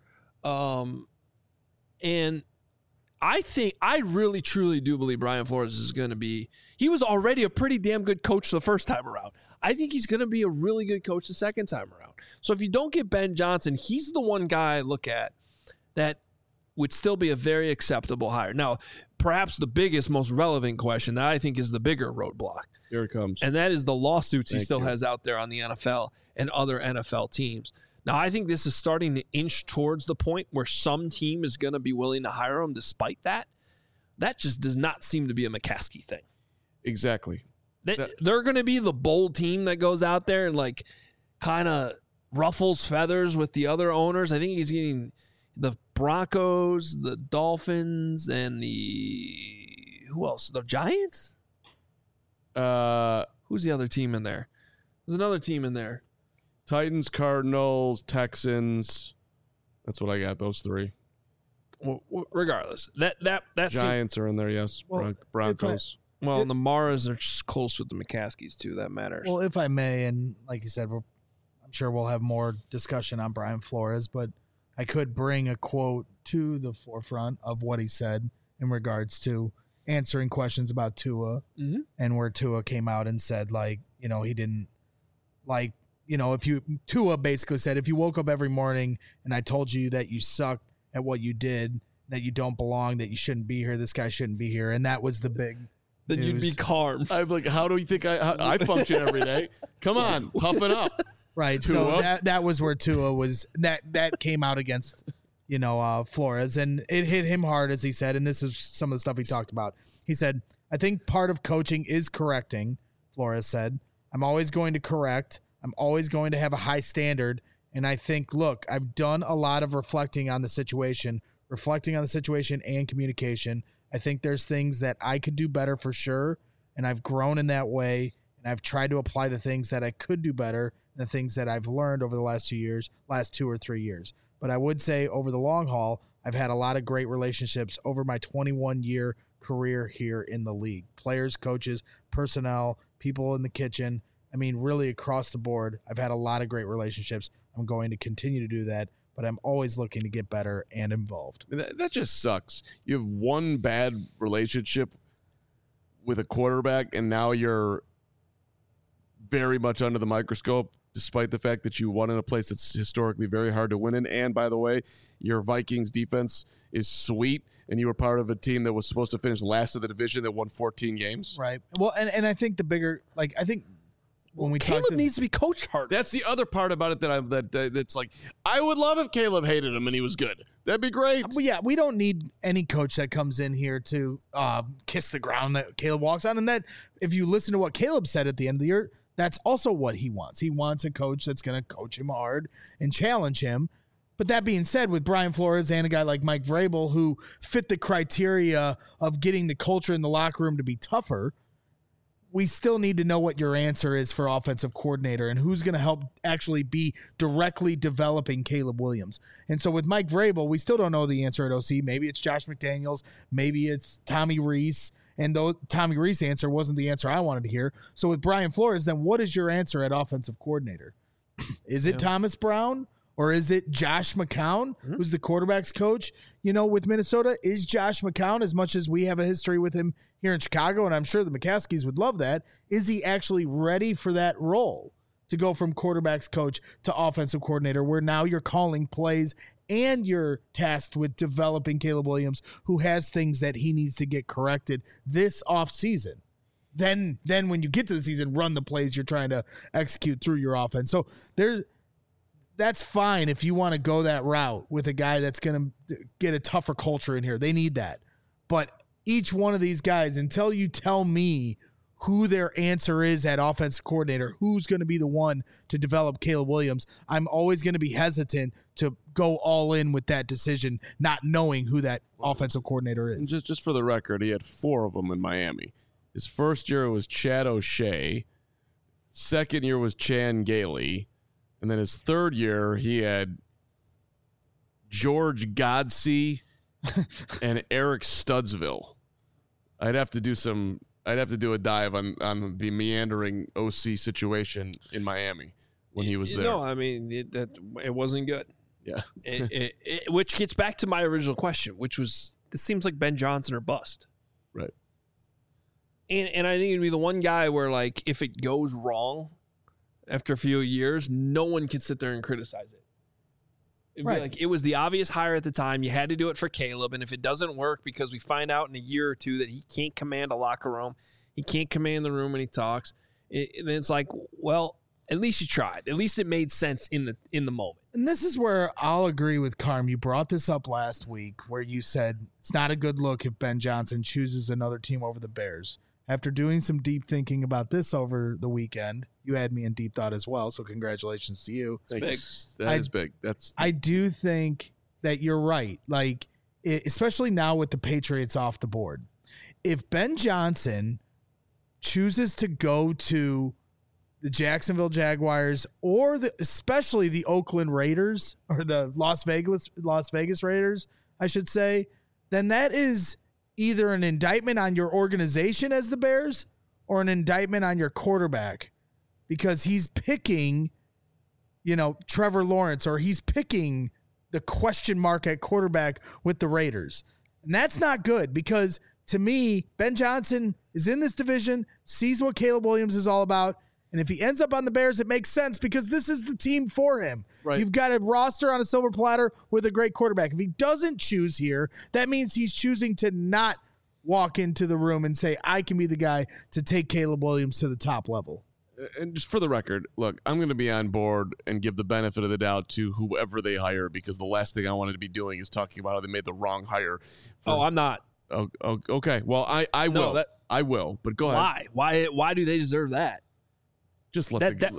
And I really, truly do believe Brian Flores is going to be, he was already a pretty damn good coach the first time around. I think he's going to be a really good coach the second time around. So if you don't get Ben Johnson, he's the one guy I look at that would still be a very acceptable hire. Now, perhaps the biggest, most relevant question that I think is the bigger roadblock. Here it comes. And that is the lawsuits he still has out there on the NFL and other NFL teams. Now, I think this is starting to inch towards the point where some team is going to be willing to hire him despite that. That just does not seem to be a McCaskey thing. Exactly. They're going to be the bold team that goes out there and like kind of ruffles feathers with the other owners. I think he's getting the Broncos, the Dolphins, and who else? The Giants? Who's the other team in there? There's another team in there. Titans, Cardinals, Texans. That's what I got. Those 3. Well, regardless, that Giants are in there. Yes, well, Broncos. And the Maras are just close with the McCaskeys too. That matters. Well, if I may, and like you said, I'm sure we'll have more discussion on Brian Flores, but I could bring a quote to the forefront of what he said in regards to answering questions about Tua, and where Tua came out and said, like, he didn't like. Tua basically said, if you woke up every morning and I told you that you suck at what you did, that you don't belong, that you shouldn't be here, this guy shouldn't be here. And that was the big then news. You'd be calm. I'm like, how do you think I function every day? Come on, toughen up. Right. Tua. So that was where Tua was, that came out against, Flores, and it hit him hard, as he said. And this is some of the stuff he talked about. He said, I think part of coaching is correcting, Flores said. I'm always going to correct. I'm always going to have a high standard. And I think, look, I've done a lot of reflecting on the situation and communication. I think there's things that I could do better for sure. And I've grown in that way. And I've tried to apply the things that I could do better and the things that I've learned over the last 2 or 3 years. But I would say over the long haul, I've had a lot of great relationships over my 21-year career here in the league. Players, coaches, personnel, people in the kitchen. I mean, really across the board, I've had a lot of great relationships. I'm going to continue to do that, but I'm always looking to get better and involved. That just sucks. You have one bad relationship with a quarterback, and now you're very much under the microscope despite the fact that you won in a place that's historically very hard to win in. And by the way, your Vikings defense is sweet, and you were part of a team that was supposed to finish last of the division that won 14 games. Right. Well, and I think the bigger, like, I think when we Caleb talk needs to be coached harder. That's the other part about it that's like, I would love if Caleb hated him and he was good. That'd be great. But yeah, we don't need any coach that comes in here to kiss the ground that Caleb walks on. And that, if you listen to what Caleb said at the end of the year, that's also what he wants. He wants a coach that's going to coach him hard and challenge him. But that being said, with Brian Flores and a guy like Mike Vrabel, who fit the criteria of getting the culture in the locker room to be tougher, we still need to know what your answer is for offensive coordinator and who's going to help actually be directly developing Caleb Williams. And so with Mike Vrabel, we still don't know the answer at OC. Maybe it's Josh McDaniels. Maybe it's Tommy Rees. And though Tommy Rees' answer wasn't the answer I wanted to hear. So with Brian Flores, then what is your answer at offensive coordinator? Is it Thomas Brown? Or is it Josh McCown, who's the quarterback's coach? You know, with Minnesota, is Josh McCown, as much as we have a history with him here in Chicago, and I'm sure the McCaskies would love that, is he actually ready for that role to go from quarterback's coach to offensive coordinator, where now you're calling plays and you're tasked with developing Caleb Williams, who has things that he needs to get corrected this offseason? Then when you get to the season, run the plays you're trying to execute through your offense. So that's fine if you want to go that route with a guy that's going to get a tougher culture in here. They need that. But each one of these guys, until you tell me who their answer is at offensive coordinator, who's going to be the one to develop Caleb Williams, I'm always going to be hesitant to go all in with that decision, not knowing who that offensive coordinator is. Just for the record, he had 4 of them in Miami. His first year was Chad O'Shea. Second year was Chan Gailey. And then his third year, he had George Godsey and Eric Studsville. I'd have to do a dive on the meandering OC situation in Miami when he was there. No, I mean, it wasn't good. Yeah. Which gets back to my original question, which was, this seems like Ben Johnson or bust. Right. And I think it'd be the one guy where, like, if it goes wrong after a few years, no one can sit there and criticize it. It'd be like, it was the obvious hire at the time. You had to do it for Caleb. And if it doesn't work because we find out in a year or two that he can't command a locker room, he can't command the room when he talks, then it's like, well, at least you tried. At least it made sense in the moment. And this is where I'll agree with Carm. You brought this up last week where you said it's not a good look if Ben Johnson chooses another team over the Bears. After doing some deep thinking about this over the weekend, you had me in deep thought as well, so congratulations to you. Thanks. That is big. I do think that you're right, like, especially now with the Patriots off the board. If Ben Johnson chooses to go to the Jacksonville Jaguars or especially the Oakland Raiders or the Las Vegas Raiders, I should say, then that is either an indictment on your organization as the Bears or an indictment on your quarterback, because he's picking, Trevor Lawrence, or he's picking the question mark at quarterback with the Raiders. And that's not good, because to me, Ben Johnson is in this division, sees what Caleb Williams is all about. And if he ends up on the Bears, it makes sense because this is the team for him. Right. You've got a roster on a silver platter with a great quarterback. If he doesn't choose here, that means he's choosing to not walk into the room and say, I can be the guy to take Caleb Williams to the top level. And just for the record, look, I'm going to be on board and give the benefit of the doubt to whoever they hire, because the last thing I wanted to be doing is talking about how they made the wrong hire. I'm not. Oh, okay. Well, I will. I will. But go ahead. Why do they deserve that? Just let okay.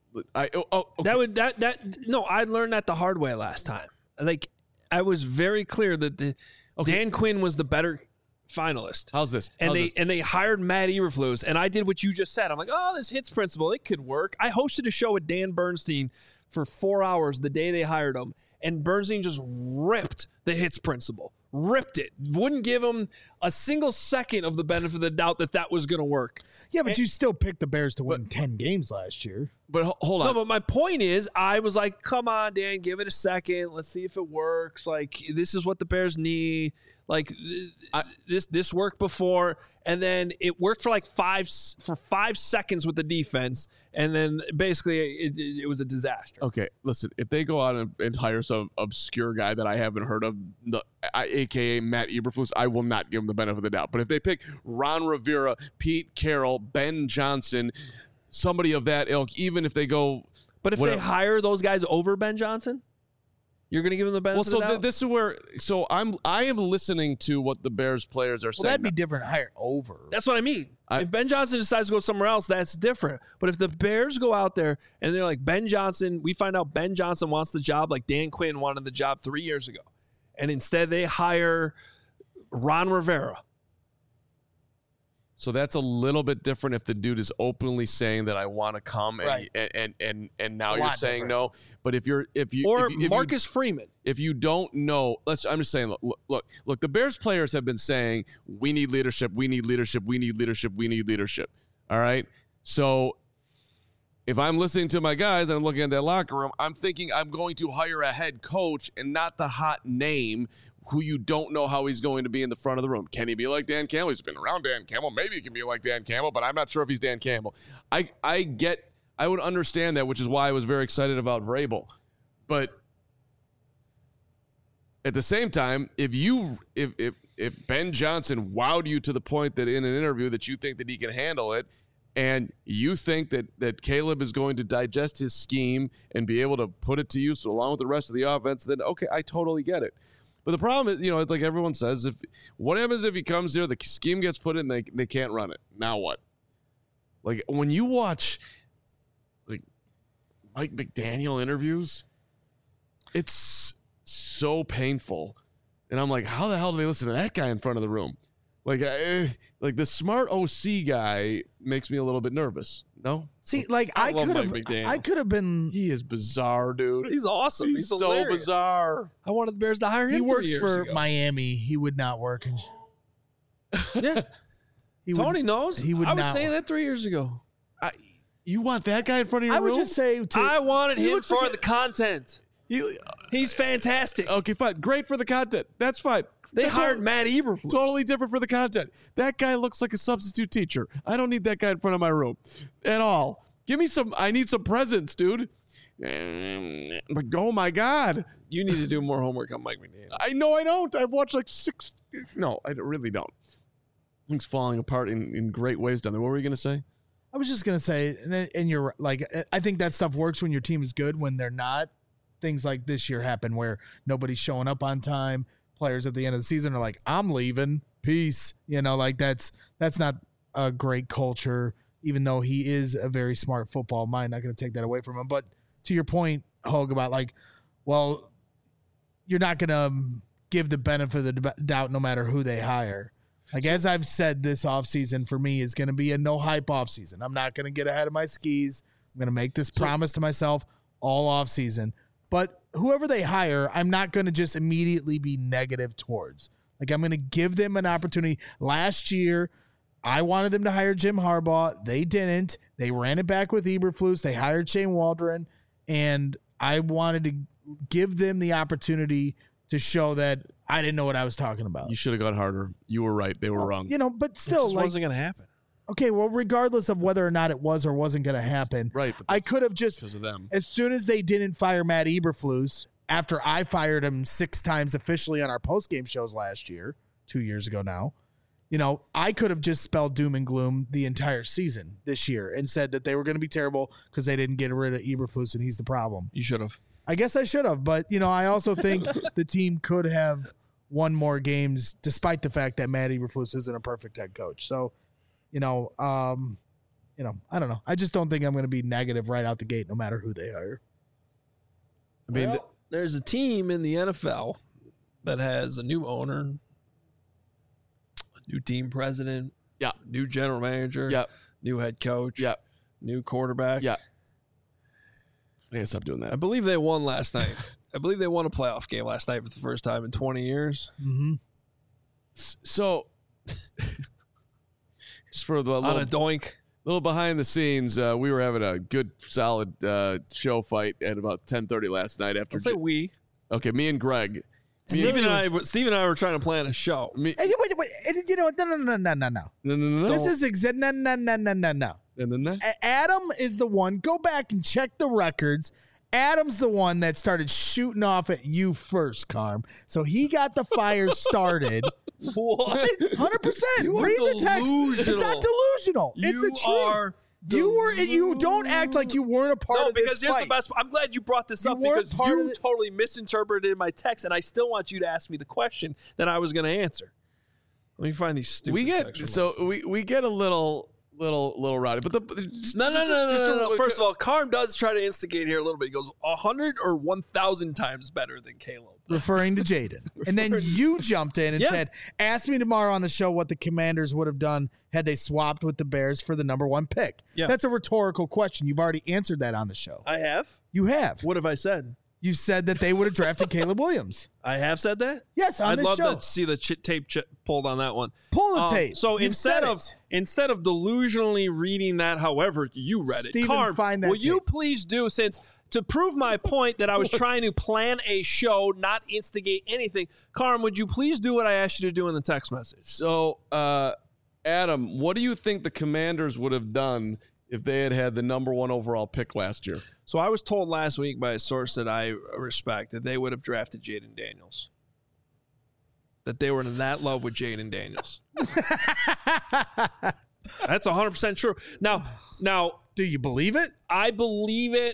No, I learned that the hard way last time. Like, I was very clear that Dan Quinn was the better finalist. How's this? And they hired Matt Eberflus, and I did what you just said. I'm like, this hits principle, it could work. I hosted a show with Dan Bernstein for 4 hours the day they hired him, and Bernstein just ripped the hits principle. Ripped it. Wouldn't give him a single second of the benefit of the doubt that was going to work. Yeah, but you still picked the Bears to win 10 games last year. But hold on. No, but my point is, I was like, come on, Dan, give it a second. Let's see if it works. Like, this is what the Bears need. Like, this worked before, and then it worked for like 5 seconds with the defense, and then basically it was a disaster. Okay, listen, if they go out and hire some obscure guy that I haven't heard of, a.k.a. Matt Eberflus, I will not give him the benefit of the doubt. But if they pick Ron Rivera, Pete Carroll, Ben Johnson, somebody of that ilk, even if they go... But if they hire those guys over Ben Johnson, you're going to give them the benefit of the doubt? This is where... So I am listening to what the Bears players are saying. Well, that'd be different. Hire over. That's what I mean. If Ben Johnson decides to go somewhere else, that's different. But if the Bears go out there and they're like, Ben Johnson, we find out Ben Johnson wants the job like Dan Quinn wanted the job 3 years ago. And instead they hire Ron Rivera. So that's a little bit different if the dude is openly saying that I want to come, and Right. and now you're saying no. But if you Marcus Freeman. If you don't know, I'm just saying. Look. The Bears players have been saying we need leadership. We need leadership. We need leadership. We need leadership. All right. So if I'm listening to my guys and I'm looking at that locker room, I'm thinking I'm going to hire a head coach and not the hot name who you don't know how he's going to be in the front of the room. Can he be like Dan Campbell? He's been around Dan Campbell. Maybe he can be like Dan Campbell, but I'm not sure if he's Dan Campbell. I would understand that, which is why I was very excited about Vrabel. But at the same time, if Ben Johnson wowed you to the point that in an interview that you think that he can handle it, and you think that Caleb is going to digest his scheme and be able to put it to use along with the rest of the offense, then okay, I totally get it. But the problem is, like everyone says, what happens if he comes here, the scheme gets put in, they can't run it. Now what? Like when you watch like Mike McDaniel interviews, it's so painful. And I'm like, how the hell do they listen to that guy in front of the room? Like the smart OC guy makes me a little bit nervous. No? See, like I could have been. He is bizarre, dude. He's awesome. He's so hilarious. bizarre. I wanted the Bears to hire him. He works 3 years for ago. Miami. He would not work. Yeah. Tony knows. He would I was not saying work. that 3 years ago. You want that guy in front of your I room? would just say I wanted him looks for like the content. He's fantastic. Okay, fine. Great for the content. That's fine. They That's hired Matt Eberflus. Totally different for the content. That guy looks like a substitute teacher. I don't need that guy in front of my room at all. Give me some. I need some presents, dude. Like, oh my God. You need to do more homework on Mike McDaniel. I know I don't. I've watched like 6. No, I really don't. Things falling apart in great ways down there. What were you going to say? I was just gonna say, and you're like, I think that stuff works when your team is good. When they're not, things like this year happen where nobody's showing up on time. Players at the end of the season are like, I'm leaving. Peace. Like that's not a great culture, even though he is a very smart football mind. Not going to take that away from him. But to your point, Hogue, about like, well, you're not going to give the benefit of the doubt no matter who they hire. Like, as I've said, this offseason for me is going to be a no hype offseason. I'm not going to get ahead of my skis. I'm going to make this promise to myself all offseason. But whoever they hire, I'm not going to just immediately be negative towards. Like, I'm going to give them an opportunity. Last year, I wanted them to hire Jim Harbaugh. They didn't. They ran it back with Eberflus. They hired Shane Waldron. And I wanted to give them the opportunity to show that I didn't know what I was talking about. You should have gone harder. You were right. They were wrong. But still, It just wasn't going to happen. Okay, well, regardless of whether or not it was or wasn't going to happen, Right. But I could have just, because of them. as soon as they didn't fire Matt Eberflus, after I fired him 6 times officially on our postgame shows last year, 2 years ago now, I could have just spelled doom and gloom the entire season this year and said that they were going to be terrible because they didn't get rid of Eberflus and he's the problem. You should have. I guess I should have, but I also think the team could have won more games despite the fact that Matt Eberflus isn't a perfect head coach. So, I don't know. I just don't think I'm going to be negative right out the gate, no matter who they hire. I mean, There's a team in the NFL that has a new owner, a new team president, Yeah. new general manager, Yeah. new head coach, Yeah. new quarterback. Yeah. I gotta stop doing I that. believe they won last night. I believe they won a playoff game last night for the first time in 20 years. Mm-hmm. So, just for the On a doink. Little behind the scenes, we were having a good, solid show fight at about 10:30 last night. After Don't say we. Okay, me and Greg. Steve and I were trying to plan a show. Hey, wait, you know what? No. This is no. Adam is the one. Go back and check the records. Adam's the one that started shooting off at you first, Carm. So he got the fire started. What? 100%. You are Read the text. It's delusional. not delusional. It's the truth. You don't act like you weren't a part of this because here's fight. the best. I'm glad you brought this up because you totally misinterpreted my text, and I still want you to ask me the question that I was going to answer. Let me find these stupid. We get a little rowdy, but no. First of all, Carm does try to instigate here a little bit. He goes 100 or 1,000 times better than Caleb, referring to Jaden. And then you jumped in and said, "Ask me tomorrow on the show what the Commanders would have done had they swapped with the Bears for the number 1 pick." Yeah. That's a rhetorical question. You've already answered that on the show. I have. You have. What have I said? You said that they would have drafted Caleb Williams. I have said that? Yes, on I'd this love show. to see the tape pulled on that one. Pull the tape. So You've instead said of delusionally reading that, however you read it, Carm, find that will you tape. please do, since to prove my point that I was trying to plan a show, not instigate anything. Carm, would you please do what I asked you to do in the text message? So, Adam, what do you think the Commanders would have done if they had the number 1 overall pick last year? So I was told last week by a source that I respect that they would have drafted Jaden Daniels. That they were in that love with Jaden Daniels. That's 100% true. Now, do you believe it? I believe it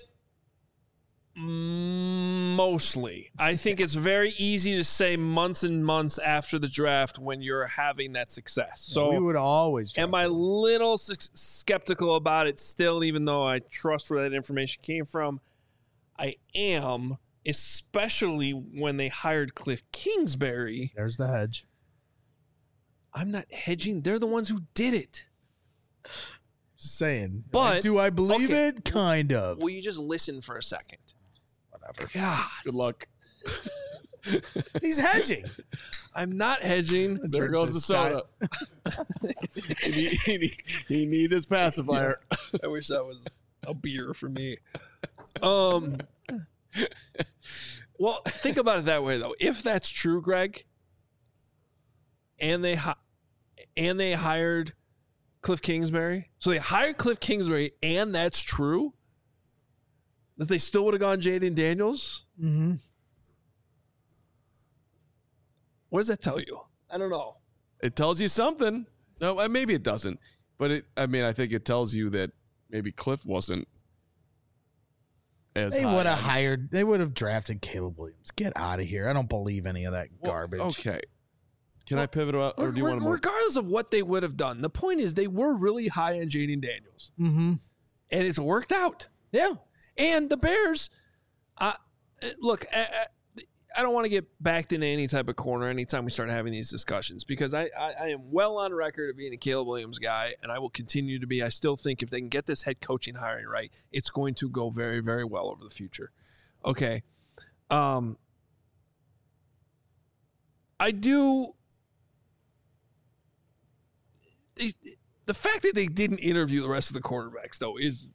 mostly. I think it's very easy to say months and months after the draft when you're having that success. So we would always am I a little skeptical about it still, even though I trust where that information came from? I am, especially when they hired Cliff Kingsbury. There's the hedge. I'm not hedging. They're the ones who did it. Just saying. But do I believe it? Kind of. Will you just listen for a second? Whatever. God. Good luck. He's hedging. I'm not hedging. There goes the soda. he need his pacifier. I wish that was a beer for me. Well, think about it that way, though. If that's true, Greg, and they hired Cliff Kingsbury, so they hired Cliff Kingsbury, and that's true, that they still would have gone Jaden Daniels. Mm-hmm. What does that tell you? I don't know. It tells you something. No, maybe it doesn't. But I think it tells you that maybe Cliff wasn't as They high would have on- hired. They would have drafted Caleb Williams. Get out of here. I don't believe any of that garbage. Okay. Can I pivot out, or do you want to more? Regardless of what they would have done, the point is they were really high on Jaden Daniels. Mm-hmm. And it's worked out. Yeah. And the Bears, look, I don't want to get backed into any type of corner anytime we start having these discussions because I am well on record of being a Caleb Williams guy, and I will continue to be. I still think if they can get this head coaching hiring right, it's going to go very, very well over the future. Okay. I do. The fact that they didn't interview the rest of the quarterbacks, though, is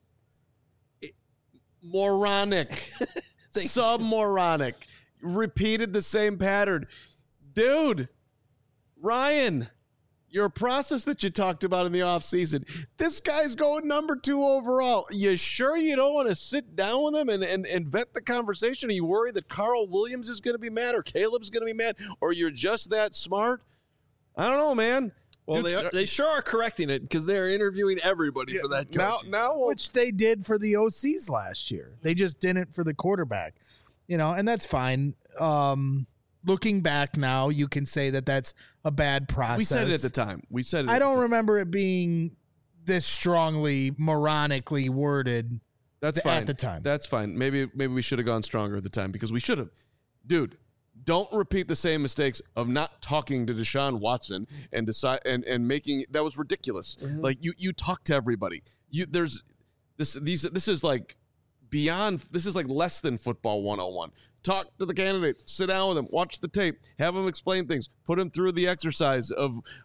moronic. Submoronic. Repeated the same pattern. Dude, Ryan, your process that you talked about in the offseason, this guy's going number 2 overall. You sure you don't want to sit down with him and vet the conversation? Are you worried that Carl Williams is going to be mad or Caleb's going to be mad or you're just that smart? I don't know, man. Well, Dude, they sure are correcting it because they're interviewing everybody for that coach. Now, Which they did for the OCs last year. They just didn't for the quarterback. And that's fine. Looking back now, you can say that that's a bad process. we said it at the time. I don't remember it being this strongly, moronically worded. That's fine. At the time. That's fine. Maybe we should have gone stronger at the time because we should have. Dude, don't repeat the same mistakes of not talking to Deshaun Watson and decide and making that was ridiculous. Mm-hmm. Like you talk to everybody. This is like beyond. This is like less than football 101. Talk to the candidates. Sit down with them. Watch the tape. Have them explain things. Put them through the exercise of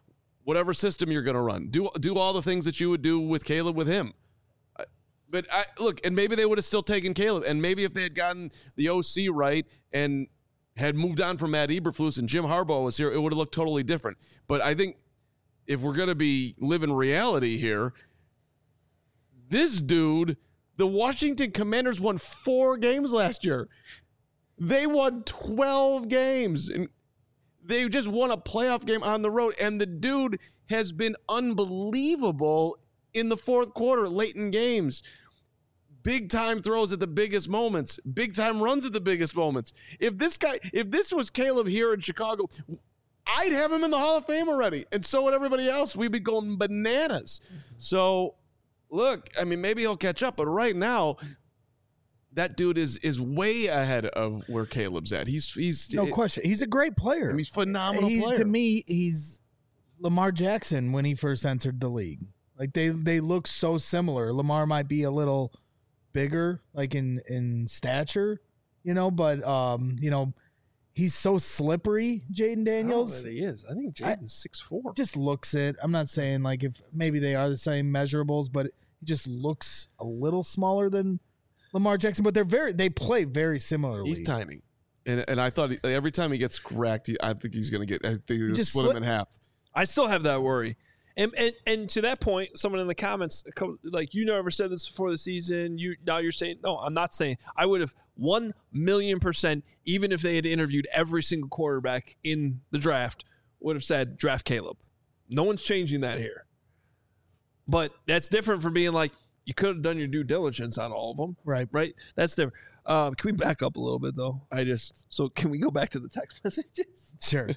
whatever system you're going to run. Do all the things that you would do with Caleb with him. But look, and maybe they would have still taken Caleb. And maybe if they had gotten the OC right and had moved on from Matt Eberflus and Jim Harbaugh was here, it would have looked totally different. But I think if we're going to be living reality here, this dude, the Washington Commanders won 4 games last year. They won 12 games. And they just won a playoff game on the road. And the dude has been unbelievable in the fourth quarter, late in games. Big time throws at the biggest moments. Big time runs at the biggest moments. If this was Caleb here in Chicago, I'd have him in the Hall of Fame already. And so would everybody else. We'd be going bananas. So, look, I mean, maybe he'll catch up. But right now, that dude is way ahead of where Caleb's at. He's no question. He's a great player. I mean, he's a phenomenal player. To me, he's Lamar Jackson when he first entered the league. Like they look so similar. Lamar might be a little bigger, like in stature, but he's so slippery, Jaden Daniels. I don't know that he is. I think Jaden's 6'4". Just looks it. I'm not saying like if maybe they are the same measurables, but he just looks a little smaller than Lamar Jackson. But they play very similarly. He's tiny, and I thought every time he gets cracked, I think he's going to get. I think he's going to split him in half. I still have that worry. And to that point, someone in the comments, like, you never said this before the season. Now you're saying, no, I'm not saying. I would have 1,000,000%, even if they had interviewed every single quarterback in the draft, would have said draft Caleb. No one's changing that here. But that's different from being like, you could have done your due diligence on all of them. Right. Right? That's different. Can we back up a little bit, though? So can we go back to the text messages? Sure.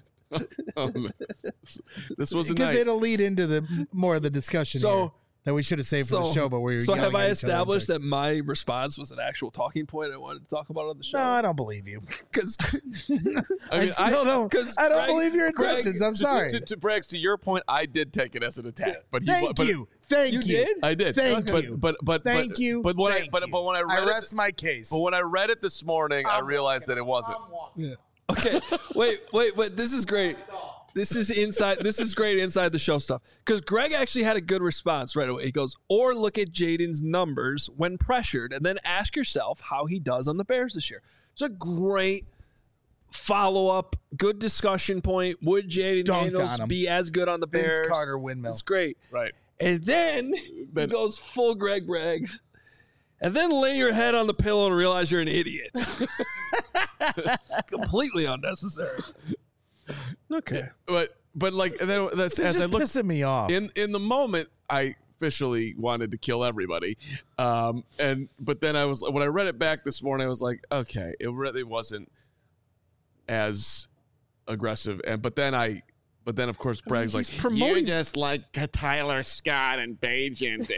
This was because it'll lead into the more of the discussion here that we should have saved for the show. But have I established that my response was an actual talking point I wanted to talk about on the show? No, I don't believe you. Because I don't believe your intentions. I'm sorry. To Braggs, to your point, I did take it as an attack. But Thank you. Did? I did. Thank you. But thank you. But when I read rest my case. But when I read it this morning, I realized that it wasn't. Yeah. Okay. Wait. This is great. This is great inside the show stuff. Because Greg actually had a good response right away. He goes, or look at Jaden's numbers when pressured and then ask yourself how he does on the Bears this year. It's a great follow-up, good discussion point. Would Jaden Daniels be as good on the Bears? Vince Carter windmill. It's great. Right. And then he goes full Greg Braggs. And then lay your head on the pillow and realize you're an idiot. Completely unnecessary. Okay. But like that's as just I look pissing me off. In the moment, I officially wanted to kill everybody. But then when I read it back this morning, I was like, okay, it really wasn't as aggressive. But then of course Bragg's like, you're just like Tyler Scott and Bagent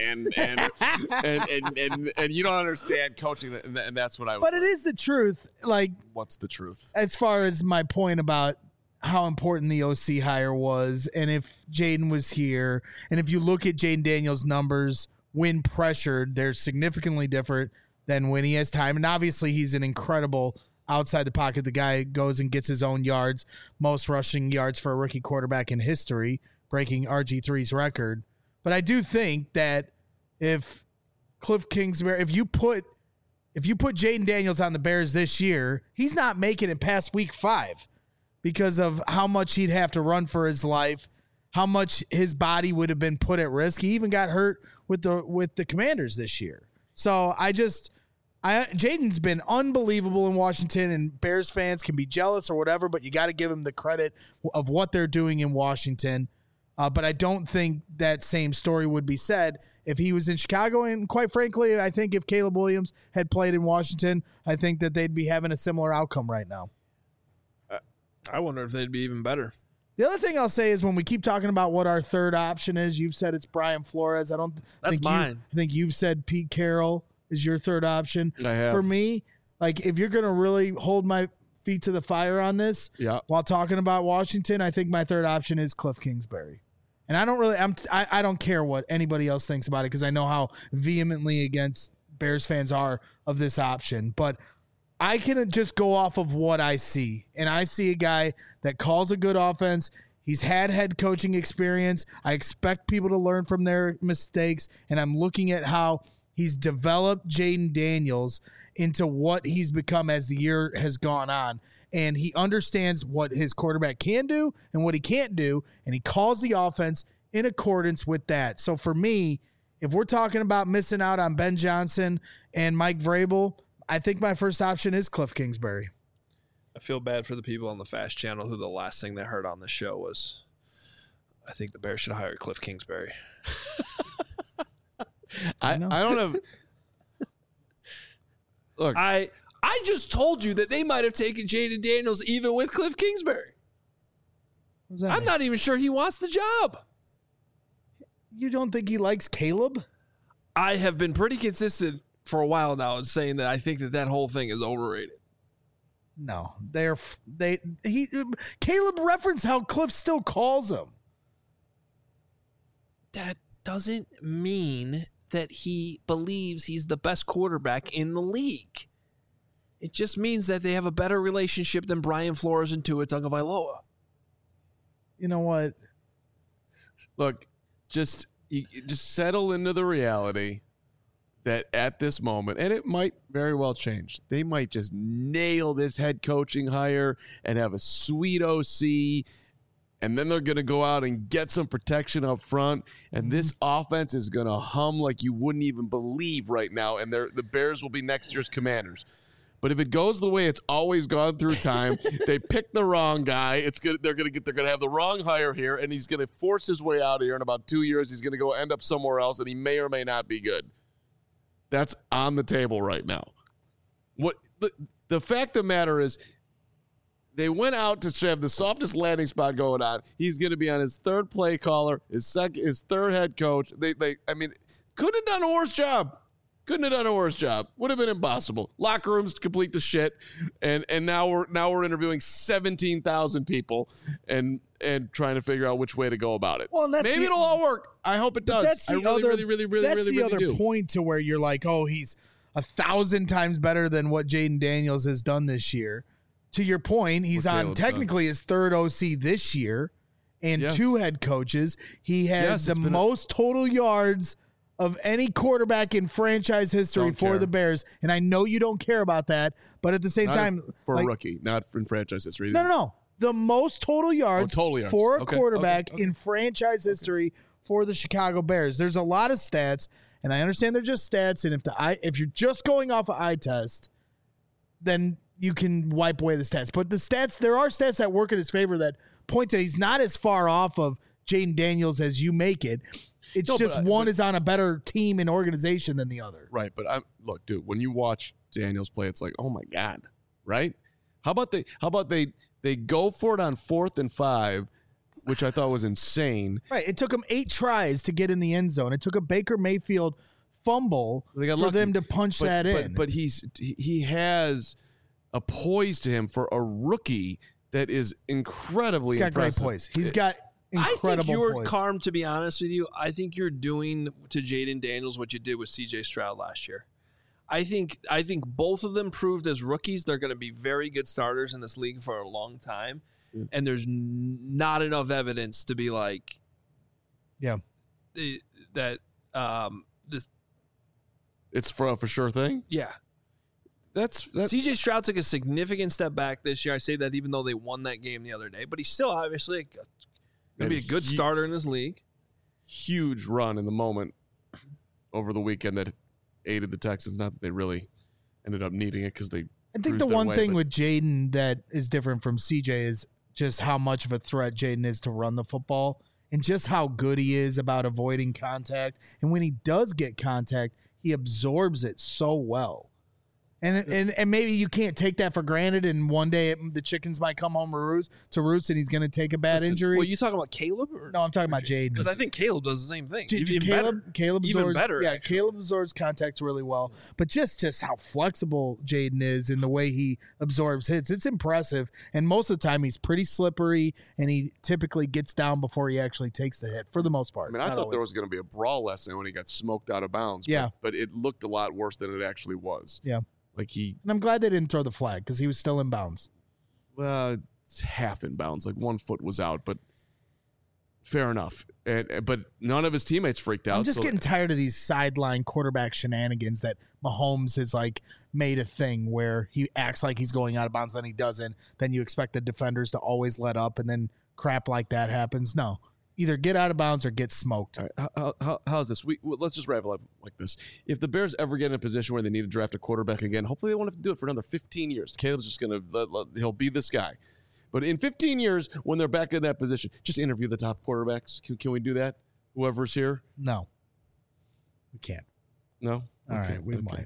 and you don't understand coaching, and that's what I was. But it is the truth. Like, what's the truth? As far as my point about how important the OC hire was, and if Jaden was here, and if you look at Jaden Daniels' numbers when pressured, they're significantly different than when he has time. And obviously, he's an incredible outside the pocket. The guy goes and gets his own yards, most rushing yards for a rookie quarterback in history, breaking RG3's record. But I do think that if Cliff Kingsbury, if you put Jaden Daniels on the Bears this year, he's not making it past week 5 because of how much he'd have to run for his life, how much his body would have been put at risk. He even got hurt with the Commanders this year. So Jaden's been unbelievable in Washington, and Bears fans can be jealous or whatever, but you got to give him the credit of what they're doing in Washington. But I don't think that same story would be said if he was in Chicago. And quite frankly, I think if Caleb Williams had played in Washington, I think that they'd be having a similar outcome right now. I wonder if they'd be even better. The other thing I'll say is when we keep talking about what our third option is, you've said it's Brian Flores. That's mine. I think you've said Pete Carroll is your third option. I have. For me, like, if you're going to really hold my feet to the fire on this, while talking about Washington, I think my third option is Cliff Kingsbury. And I don't care what anybody else thinks about it because I know how vehemently against Bears fans are of this option. But I can just go off of what I see. And I see a guy that calls a good offense. He's had head coaching experience. I expect people to learn from their mistakes, and I'm looking at how he's developed Jaden Daniels into what he's become as the year has gone on. And he understands what his quarterback can do and what he can't do, and he calls the offense in accordance with that. So for me, if we're talking about missing out on Ben Johnson and Mike Vrabel, I think my first option is Cliff Kingsbury. I feel bad for the people on the Fast Channel who the last thing they heard on the show was, I think the Bears should hire Cliff Kingsbury. I don't have. Look, I just told you that they might have taken Jaden Daniels even with Cliff Kingsbury. What does that I'm mean? not even sure he wants the job. You don't think he likes Caleb? I have been pretty consistent for a while now in saying that I think that whole thing is overrated. No, Caleb referenced how Cliff still calls him. That doesn't mean that he believes he's the best quarterback in the league. It just means that they have a better relationship than Brian Flores and Tua Tagovailoa. You know what? look, just settle into the reality that at this moment, and it might very well change, they might just nail this head coaching hire and have a sweet OC, and then they're going to go out and get some protection up front, and this offense is going to hum like you wouldn't even believe right now, and the Bears will be next year's Commanders. But if it goes the way it's always gone through time, they pick the wrong guy. They're going to have the wrong hire here, and he's going to force his way out of here in about 2 years. He's going to go end up somewhere else, and he may or may not be good. That's on the table right now. What the fact of the matter is, they went out to have the softest landing spot going on. He's going to be on his third play caller, his third head coach. They couldn't have done a worse job. Couldn't have done a worse job. Would have been impossible. Locker rooms complete the shit, and now we're interviewing 17,000 people and trying to figure out which way to go about it. Well, and maybe it'll all work. I hope it does. That's the other point to where you're like, oh, he's 1,000 times better than what Jaden Daniels has done this year. To your point, he's on technically his third OC this year and two head coaches. He has the most total yards of any quarterback in franchise history for the Bears. And I know you don't care about that, but at the same time, for a rookie, not in franchise history. No. The most total yards, for a quarterback in franchise history for the Chicago Bears. There's a lot of stats, and I understand they're just stats. And if you're just going off of eye test, then you can wipe away the stats. But there are stats that work in his favor that point to he's not as far off of Jaden Daniels as you make it. It's one is on a better team and organization than the other. Right, but look, dude, when you watch Daniels play, it's like, oh my God, right? How about they go for it on 4th and 5, which I thought was insane. Right, it took him 8 tries to get in the end zone. It took a Baker Mayfield fumble for them to punch that in. But he has a poise to him for a rookie that is incredibly impressive. Great poise. He's got incredible I think you're poise. Carm, to be honest with you. I think you're doing to Jaden Daniels what you did with CJ Stroud last year. I think both of them proved as rookies they're going to be very good starters in this league for a long time, and there's not enough evidence to be like, that this. It's for a for sure thing. Yeah. That's CJ Stroud took a significant step back this year. I say that even though they won that game the other day, but he's still obviously going to be a good starter in this league. Huge run in the moment over the weekend that aided the Texans. Not that they really ended up needing it because they. I think the one thing with Jaden that is different from CJ is just how much of a threat Jaden is to run the football and just how good he is about avoiding contact. And when he does get contact, he absorbs it so well. And maybe you can't take that for granted, and one day the chickens might come home to roost, and he's going to take a bad injury. Well, you talking about Caleb? No, I'm talking about Jaden. Because I think Caleb does the same thing. Caleb absorbs, even better. Yeah, Caleb absorbs contact really well. But just how flexible Jaden is in the way he absorbs hits, it's impressive. And most of the time, he's pretty slippery, and he typically gets down before he actually takes the hit, for the most part. I mean, I thought there was going to be a brawl lesson when he got smoked out of bounds. But it looked a lot worse than it actually was. Yeah. And I'm glad they didn't throw the flag because he was still in bounds. Well, it's half in bounds. Like 1 foot was out, but fair enough. But none of his teammates freaked out. I'm just getting tired of these sideline quarterback shenanigans that Mahomes has like made a thing where he acts like he's going out of bounds, then he doesn't. Then you expect the defenders to always let up, and then crap like that happens. No, either get out of bounds or get smoked. All right, how's this? Let's just wrap it up like this. If the Bears ever get in a position where they need to draft a quarterback again, hopefully they won't have to do it for another 15 years. Caleb's just going to he'll be this guy. But in 15 years, when they're back in that position, just interview the top quarterbacks. Can we do that? Whoever's here? No, we can't. No? All right, we might.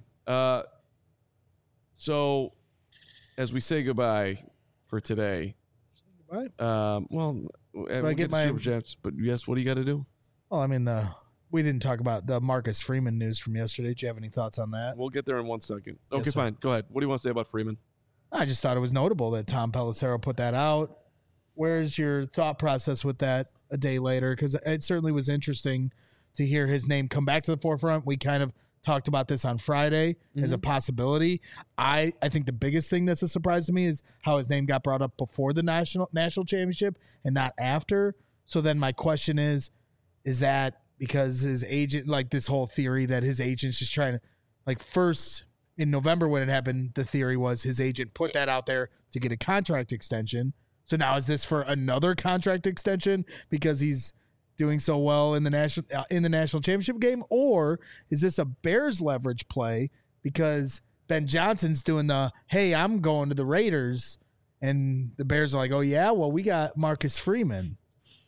So, as we say goodbye for today. Goodbye? I get my Super Chats, but yes, what do you got to do? Well, I mean, we didn't talk about the Marcus Freeman news from yesterday. Do you have any thoughts on that? We'll get there in 1 second. Okay, Yes, fine. Go ahead. What do you want to say about Freeman? I just thought it was notable that Tom Pelissero put that out. Where's your thought process with that a day later? Because it certainly was interesting to hear his name come back to the forefront. We kind of talked about this on Friday as a possibility. I think the biggest thing that's a surprise to me is how his name got brought up before the national championship and not after. So then my question is that because his agent, like this whole theory that his agent's just trying to, like, first in November when it happened, the theory was his agent put that out there to get a contract extension. So now is this for another contract extension because he's doing so well in the national championship game, or is this a Bears leverage play because Ben Johnson's doing the, hey, I'm going to the Raiders, and the Bears are like, oh yeah, well, we got Marcus Freeman.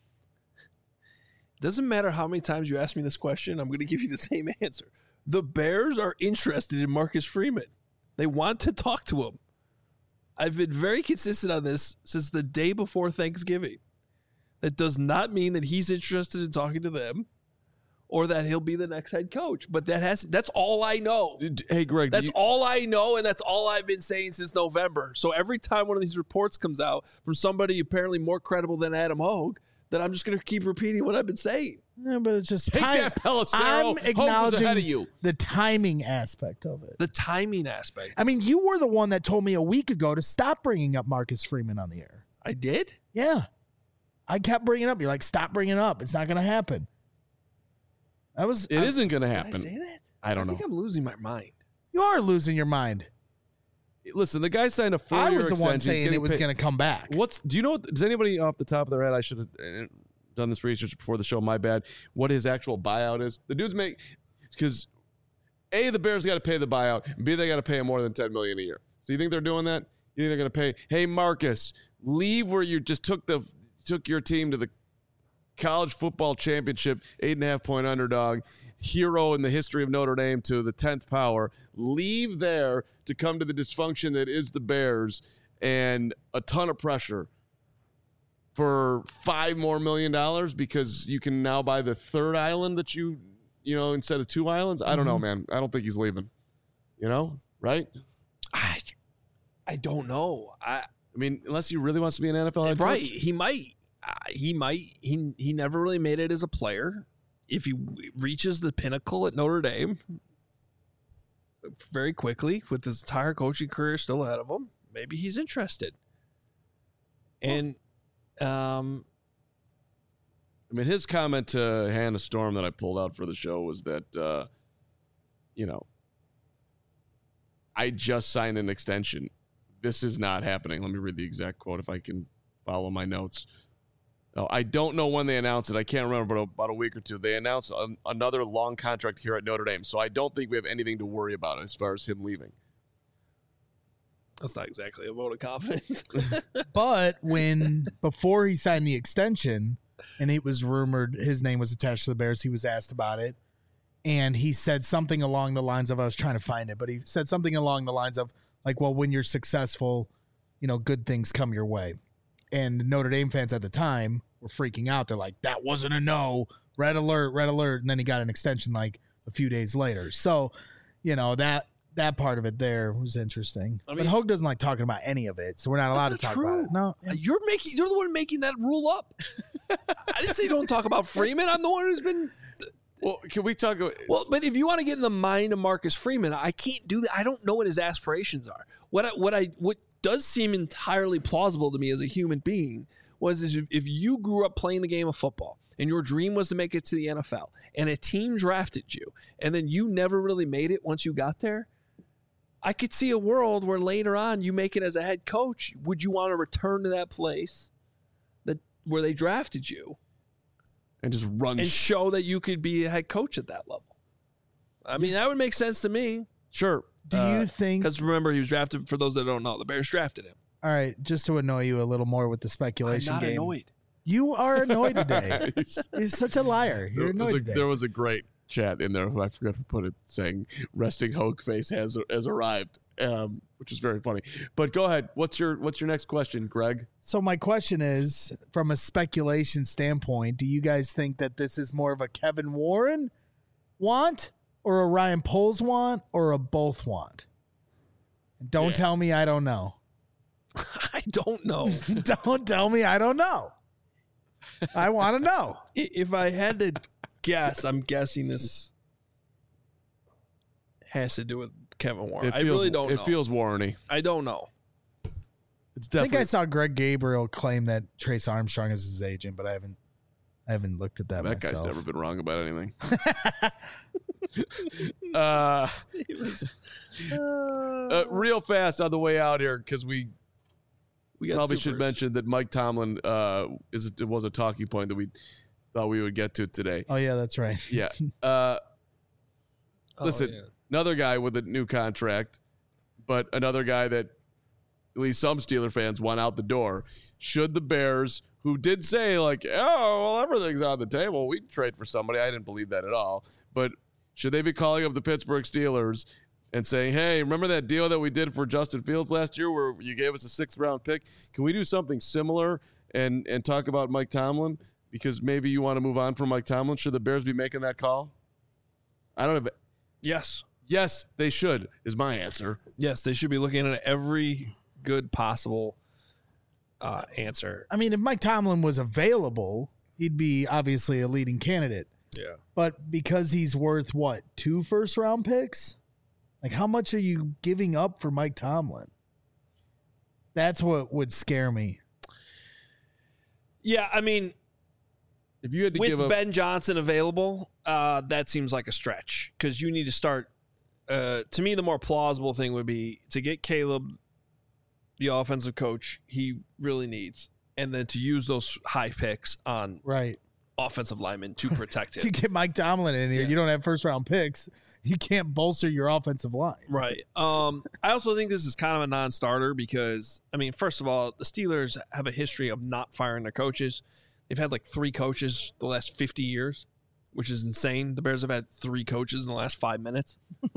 Doesn't matter how many times you ask me this question, I'm going to give you the same answer. The Bears are interested in Marcus Freeman. They want to talk to him. I've been very consistent on this since the day before Thanksgiving. That does not mean that he's interested in talking to them or that he'll be the next head coach. But that's all I know. Hey, Greg. That's all I know, and that's all I've been saying since November. So every time one of these reports comes out from somebody apparently more credible than Adam Hogue, that I'm just going to keep repeating what I've been saying. Yeah, but it's just Take that, Pelissero. I'm acknowledging ahead of you. the timing aspect of it. The timing aspect. I mean, you were the one that told me a week ago to stop bringing up Marcus Freeman on the air. I did? Yeah. I kept bringing it up. You're like, stop bringing it up. It's not going to happen. It isn't going to happen. Did I say that? I don't know. I think I'm losing my mind. You are losing your mind. Listen, the guy signed a 4-year I was the extension. one saying it was going to come back. Do you know? Does anybody off the top of their head? I should have done this research before the show. My bad. What his actual buyout is? The dudes make because A, the Bears got to pay the buyout. And B, they got to pay him more than $10 million a year. So you think they're doing that? You think they're going to pay? Hey, Marcus, leave where you just took your team to the college football championship, 8.5-point underdog, hero in the history of Notre Dame to the 10th power. Leave there to come to the dysfunction that is the Bears and a ton of pressure for $5 more million because you can now buy the third island that you instead of 2 islands. I don't know, man. I don't think he's leaving. Right? I don't know. I mean, unless he really wants to be an NFL head coach. Right. He might. He never really made it as a player. If he reaches the pinnacle at Notre Dame very quickly with his entire coaching career still ahead of him, maybe he's interested. And I mean, his comment to Hannah Storm that I pulled out for the show was that, I just signed an extension. This is not happening. Let me read the exact quote if I can follow my notes. No, I don't know when they announced it. I can't remember, but about a week or two. They announced another long contract here at Notre Dame. So I don't think we have anything to worry about as far as him leaving. That's not exactly a vote of confidence. But before he signed the extension, and it was rumored his name was attached to the Bears, he was asked about it. And he said something along the lines of, I was trying to find it, but he said something along the lines of, like, well, when you're successful, good things come your way. And Notre Dame fans at the time were freaking out. They're like, that wasn't a no. Red alert, red alert. And then he got an extension like a few days later. So, that part of it there was interesting. But Hogue doesn't like talking about any of it, so we're not allowed to talk about it. No. You're the one making that rule up. I didn't say don't talk about Freeman. I'm the one who's been... Well, can we talk about... Well, but if you want to get in the mind of Marcus Freeman, I can't do that. I don't know what his aspirations are. What does seem entirely plausible to me as a human being was if you grew up playing the game of football and your dream was to make it to the NFL and a team drafted you and then you never really made it once you got there, I could see a world where later on you make it as a head coach. Would you want to return to that place where they drafted you and just run and show that you could be a head coach at that level? I mean, that would make sense to me. Sure. Do you think? Because remember, he was drafted, for those that don't know, the Bears drafted him. All right, just to annoy you a little more with the speculation I'm not game. annoyed. You are annoyed today. You're such a liar. You're annoyed today. There was a great chat in there. I forgot to put it, saying "Resting Hogue Face has arrived," which is very funny. But go ahead. What's your next question, Greg? So my question is, from a speculation standpoint, do you guys think that this is more of a Kevin Warren want, or a Ryan Poles want, or a both want? Don't tell me I don't know. I don't know. Don't tell me I don't know. I want to know. If I had to guess, I'm guessing this has to do with Kevin Warren. I really don't know. It feels Warren-y. I don't know. It's I definitely. think I saw Greg Gabriel claim that Trace Armstrong is his agent, but I haven't looked at that That myself. guy's never been wrong about anything. Real fast on the way out here, because we probably should mention that Mike Tomlin it was a talking point that we thought we would get to today. Oh yeah, that's right. Yeah. Listen, another guy with a new contract, but another guy that at least some Steeler fans want out the door. Should the Bears, who did say like, oh, well, everything's on the table, we'd trade for somebody. I didn't believe that at all. But should they be calling up the Pittsburgh Steelers and saying, hey, remember that deal that we did for Justin Fields last year where you gave us a 6th-round pick? Can we do something similar and talk about Mike Tomlin? Because maybe you want to move on from Mike Tomlin. Should the Bears be making that call? I don't have. Yes. Yes, they should, is my answer. Yes, they should be looking at every good possible answer. I mean, if Mike Tomlin was available, he'd be obviously a leading candidate. Yeah. But because he's worth, what, 2 first-round picks? Like, how much are you giving up for Mike Tomlin? That's what would scare me. Yeah, I mean, if you had to with Ben Johnson available, that seems like a stretch because you need to start. To me, the more plausible thing would be to get Caleb, the offensive coach, he really needs, and then to use those high picks on offensive linemen to protect him. You get Mike Tomlin in here, you don't have first-round picks. You can't bolster your offensive line. Right. I also think this is kind of a non-starter because, I mean, first of all, the Steelers have a history of not firing their coaches. They've had like 3 coaches the last 50 years, which is insane. The Bears have had 3 coaches in the last 5 minutes.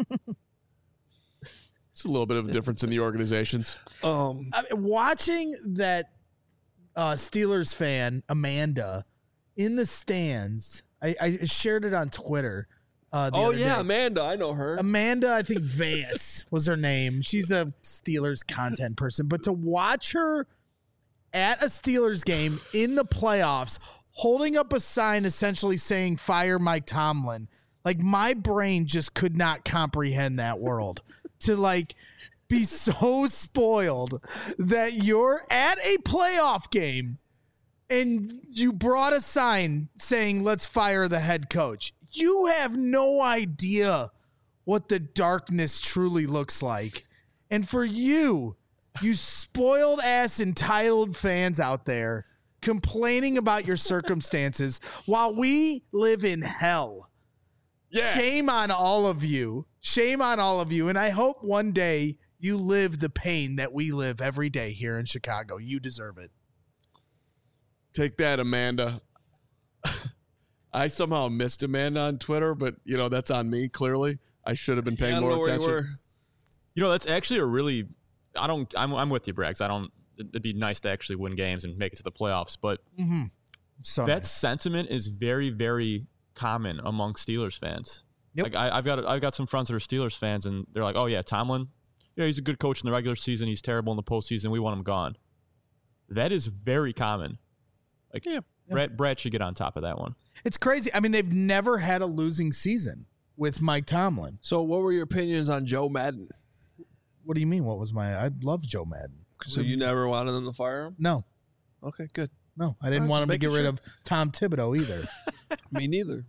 It's a little bit of a difference in the organizations. I mean, watching that Steelers fan, Amanda, in the stands, I shared it on Twitter. Amanda. I know her. Amanda, I think Vance was her name. She's a Steelers content person. But to watch her at a Steelers game in the playoffs, holding up a sign essentially saying, fire Mike Tomlin, like my brain just could not comprehend that world. To like be so spoiled that you're at a playoff game and you brought a sign saying, let's fire the head coach. You have no idea what the darkness truly looks like. And for you spoiled ass entitled fans out there complaining about your circumstances while we live in hell. Yeah. Shame on all of you. Shame on all of you. And I hope one day you live the pain that we live every day here in Chicago. You deserve it. Take that, Amanda. I somehow missed Amanda on Twitter, but, that's on me, clearly. I should have been paying more attention. That's actually a really – I'm with you, Braggs. It'd be nice to actually win games and make it to the playoffs, but that sentiment is very, very common among Steelers fans. Yep. Like I've got some friends that are Steelers fans, and they're like, oh, yeah, Tomlin, he's a good coach in the regular season. He's terrible in the postseason. We want him gone. That is very common. Like, Brad should get on top of that one. It's crazy. I mean, they've never had a losing season with Mike Tomlin. So what were your opinions on Joe Madden? What do you mean? I love Joe Madden. So you never wanted them to fire him? No. Okay, good. No, I didn't want him to get rid of Tom Thibodeau either. Me neither.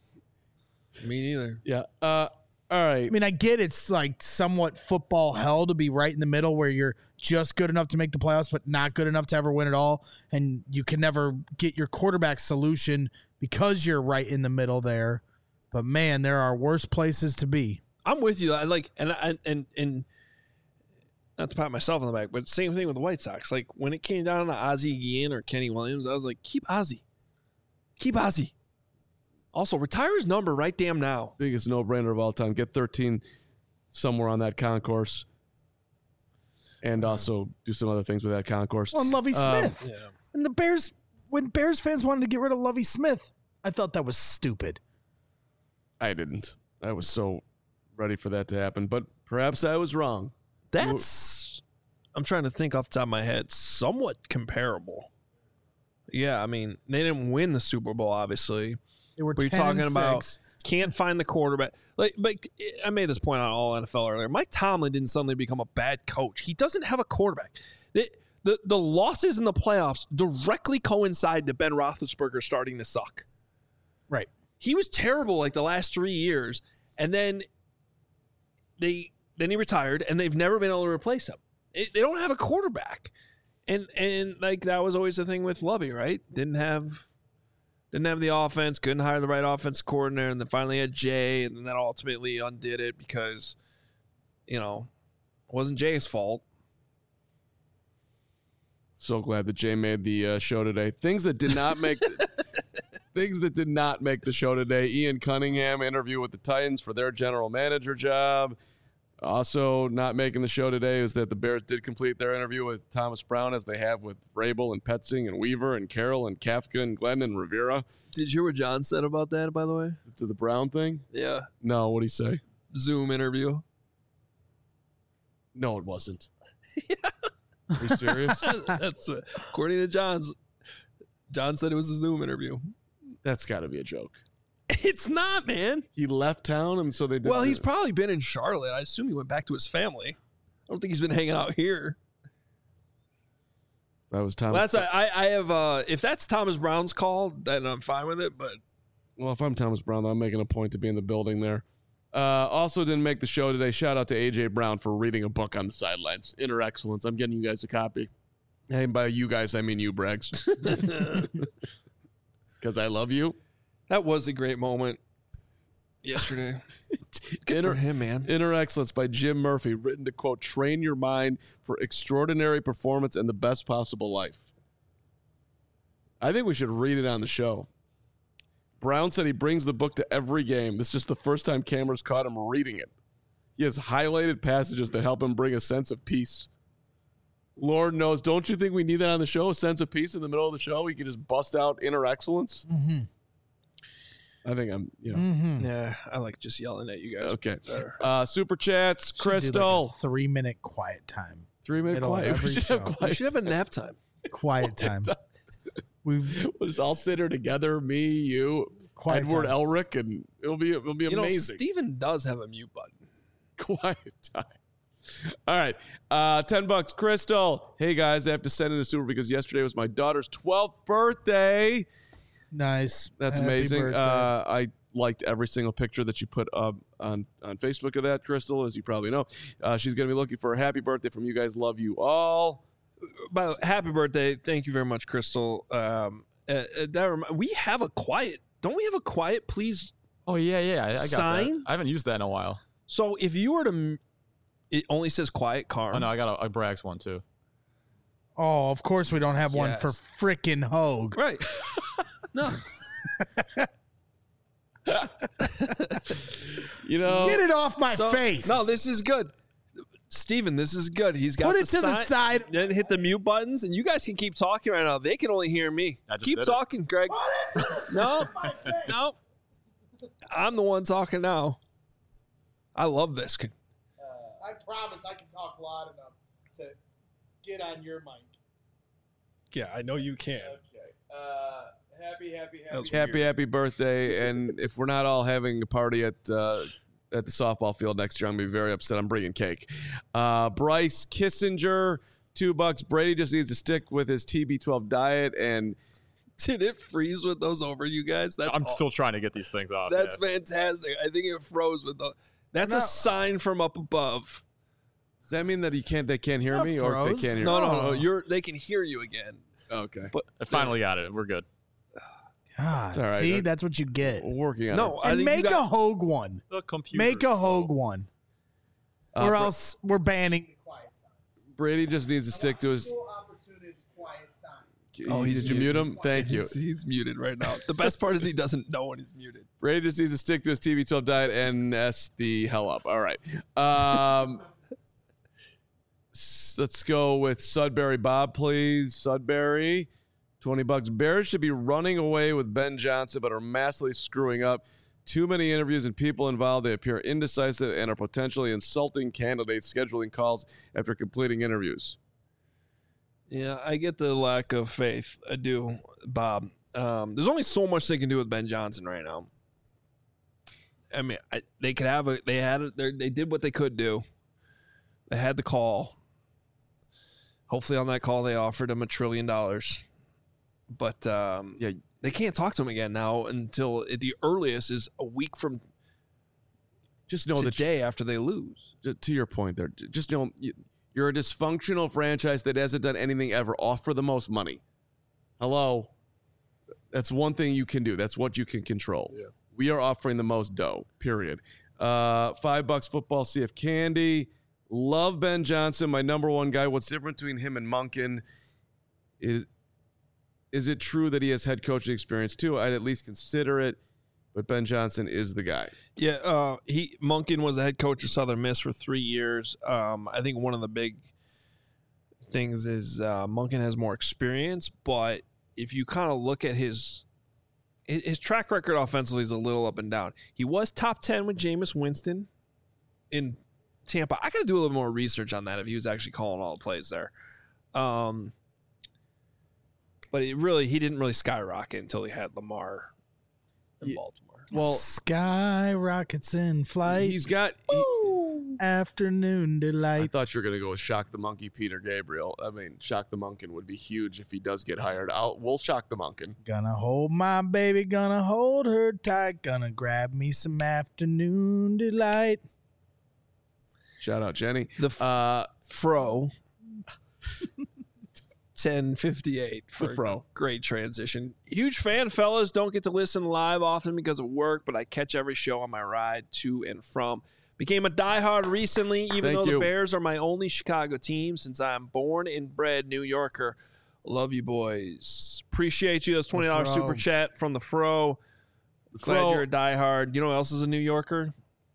Yeah. All right. I mean, I get it's like somewhat football hell to be right in the middle where you're just good enough to make the playoffs, but not good enough to ever win it all. And you can never get your quarterback solution because you're right in the middle there. But man, there are worse places to be. I'm with you. I like, and not to pat myself on the back, but same thing with the White Sox. Like when it came down to Ozzie Guillen or Kenny Williams, I was like, keep Ozzie. Also, retire his number right damn now. Biggest no-brainer of all time. Get 13 somewhere on that concourse. And also do some other things with that concourse. Well, and Lovie Smith. Yeah. And the Bears, when Bears fans wanted to get rid of Lovie Smith, I thought that was stupid. I didn't. I was so ready for that to happen, but perhaps I was wrong. That's, I'm trying to think off the top of my head, somewhat comparable. Yeah, I mean, they didn't win the Super Bowl, obviously. They were But you're 10 talking and about 6. can't find the quarterback. Like I made this point on All NFL earlier. Mike Tomlin didn't suddenly become a bad coach. He doesn't have a quarterback. The losses in the playoffs directly coincide to Ben Roethlisberger starting to suck. Right. He was terrible like the last 3 years, and then he retired, and they've never been able to replace him. They don't have a quarterback, and like that was always the thing with Lovey, right? Didn't have the offense, couldn't hire the right offense coordinator, and then finally had Jay, and then that ultimately undid it because, it wasn't Jay's fault. So glad that Jay made the show today. Things that did not make the show today. Ian Cunningham interview with the Titans for their general manager job. Also not making the show today is that the Bears did complete their interview with Thomas Brown, as they have with Vrabel and Petzing and Weaver and Carroll and Kafka and Glenn and Rivera. Did you hear what John said about that, by the way? To the Brown thing? Yeah. No, what'd he say? Zoom interview. No, it wasn't. Are you serious? That's according to John's. John said it was a Zoom interview. That's got to be a joke. It's not, man. He left town, and so they did. Well, he's probably been in Charlotte. I assume he went back to his family. I don't think he's been hanging out here. That was Thomas. Well, that's I have. If that's Thomas Brown's call, then I'm fine with it. But well, if I'm Thomas Brown, I'm making a point to be in the building there. Also didn't make the show today. Shout out to AJ Brown for reading a book on the sidelines. Inner Excellence. I'm getting you guys a copy. And by you guys, I mean you, Braggs. Because I love you. that was a great moment yesterday. Good for him, man. Inner Excellence by Jim Murphy, written to, quote, train your mind for extraordinary performance and the best possible life. I think we should read it on the show. Brown said he brings the book to every game. This is just the first time cameras caught him reading it. He has highlighted passages that help him bring a sense of peace. Lord knows, don't you think we need that on the show? A sense of peace in the middle of the show? We can just bust out Inner Excellence? Mm-hmm. I think I'm, Mm-hmm. Yeah, I like just yelling at you guys. Okay. Better. Super chats, Crystal. 3-minute quiet time. 3-minute middle of quiet. every We should show. have We quiet. should have a nap time. Quiet time. We'll just all sit here together, me, you, Quiet Edward time. Elric, and it'll be amazing. Steven does have a mute button. Quiet time. All right. $10. Crystal. Hey guys, I have to send in a super because yesterday was my daughter's 12th birthday. Nice. That's Happy amazing. birthday. I liked every single picture that you put up on Facebook of that, Crystal, as you probably know. She's going to be looking for a happy birthday from you guys. Love you all. Happy birthday. Thank you very much, Crystal. We have a quiet. Don't we have a quiet, please? Oh, yeah. I got Sign? that. I haven't used that in a while. So if you were to, it only says quiet car. Oh, no, I got a Braggs one, too. Oh, of course we don't have one Yes. for frickin' Hogue. Right. No. Get it off my face. No, this is good. Steven, this is good. He's got Put it to the side. Then hit the mute buttons, and you guys can keep talking right now. They can only hear me. I just Keep did it. talking, Greg. No. I'm the one talking now. I love this. I promise I can talk loud enough to get on your mic. Yeah, I know you can. That was weird. Happy birthday. And if we're not all having a party at the softball field next year, I'm going to be very upset. I'm bringing cake. Bryce Kissinger, $2. Brady just needs to stick with his TB12 diet and Did it freeze with those over, you guys? I'm still trying to get these things off. That's fantastic. I think it froze with the. That's a sign from up above. does that mean that they can't hear Not me or they froze. can't hear No, me? no. They can hear you again. Okay. But I finally got it. We're good. God, It's all right. see, that's what you get. We're working on no, it. I And think you make a got, Hogue one. The computer. Make a Hogue one. Or else we're banning quiet signs. Brady just needs to stick to his. Opportunist quiet signs. Oh, he's Did you mute him? Thank you. He's muted right now. The best part is he doesn't know when he's muted. Brady just needs to stick to his TB12 diet and S the hell up. All right. Let's go with Sudbury Bob, please. Sudbury, $20. Bears should be running away with Ben Johnson, but are massively screwing up. Too many interviews and people involved. They appear indecisive and are potentially insulting candidates scheduling calls after completing interviews. Yeah, I get the lack of faith. I do, Bob. There's only so much they can do with Ben Johnson right now. I mean, they could have a. They did what they could do. They had the call. Hopefully, on that call, they offered him $1 trillion. But Yeah, they can't talk to him again now until the earliest is a week from just know that today after they lose. to your point there, just know you're a dysfunctional franchise that hasn't done anything ever. Offer the most money. Hello. That's one thing you can do. That's what you can control. Yeah. We are offering the most dough, period. $5 football, CF Candy. Love Ben Johnson, my number one guy. What's different between him and Monken is it true that he has head coaching experience too? I'd at least consider it, but Ben Johnson is the guy. Yeah, Monken was the head coach of Southern Miss for 3 years. I think one of the big things is Monken has more experience, but if you kind of look at his track record offensively is a little up and down. He was top 10 with Jameis Winston in Tampa. I got to do a little more research on that if he was actually calling all the plays there. But he didn't really skyrocket until he had Lamar in Baltimore. Well, Skyrockets in flight. he's got. Afternoon I delight. thought you were gonna go with Shock the Monkey, Peter Gabriel. I mean, Shock the Monken would be huge if he does get hired. We'll Shock the Monken. Gonna hold my baby, gonna hold her tight, gonna grab me some afternoon delight. Shout out Jenny. The Fro 1058 for The Fro. a great transition. Huge fan, fellas. Don't get to listen live often because of work, but I catch every show on my ride to and from. Became a diehard recently, even Thank though you. the Bears are my only Chicago team since I'm born and bred New Yorker. Love you, boys. Appreciate you. That's $20 Fro. super chat from the Fro. Glad Fro. you're a diehard. You know who else is a New Yorker?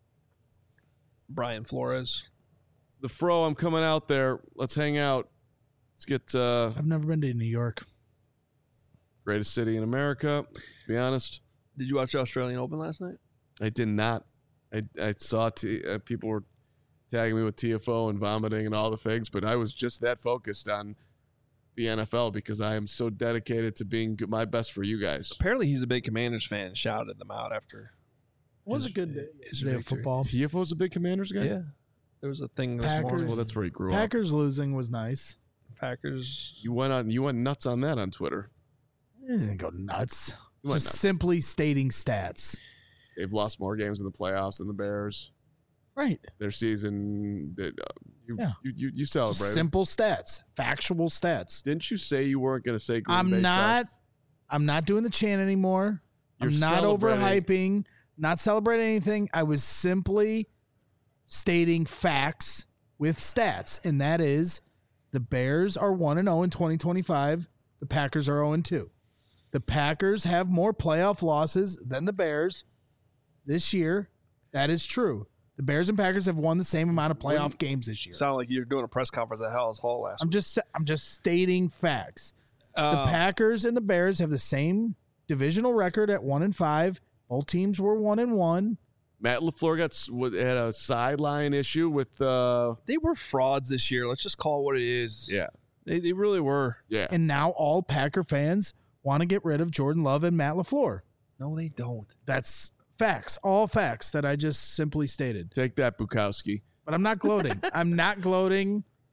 Brian Flores. The Fro, I'm coming out there. Let's hang out. Let's get I've never been to New York. greatest city in America. Let's be honest. Did you watch the Australian Open last night? I did not. I saw people were tagging me with TFO and vomiting and all the things, but I was just that focused on the NFL because I am so dedicated to being my best for you guys. Apparently, he's a big Commanders fan and shouted them out after. It was his- a good day. his Day of victory. football. TFO's a big Commanders guy? Yeah. There was a thing this Packers. morning. Well, that's where he grew up. Packers losing was nice. Packers. You went nuts on that on Twitter. It didn't go nuts. You went Just nuts. simply stating stats. They've lost more games in the playoffs than the Bears. Right. Their season, you Just celebrated. simple stats. Factual stats. Didn't you say you weren't going to say Green Bay I'm not sucks? I'm not doing the chant anymore. You're I'm not celebrating. overhyping, not celebrating anything. I was simply stating facts with stats, and that is the Bears are 1-0 in 2025. The Packers are 0-2. The Packers have more playoff losses than the Bears this year. That is true. The Bears and Packers have won the same amount of playoff games this year. Sound like you're doing a press conference at Hell's Hall last I'm week. just stating facts. The Packers and the Bears have the same divisional record at 1-5. Both teams were 1-1. Matt LaFleur had a sideline issue with They were frauds this year. Let's just call it what it is. yeah. They really were. Yeah. And now all Packer fans want to get rid of Jordan Love and Matt LaFleur. No, they don't. That's facts, all facts that I just simply stated. Take that, Bukowski. But I'm not gloating. I'm not gloating.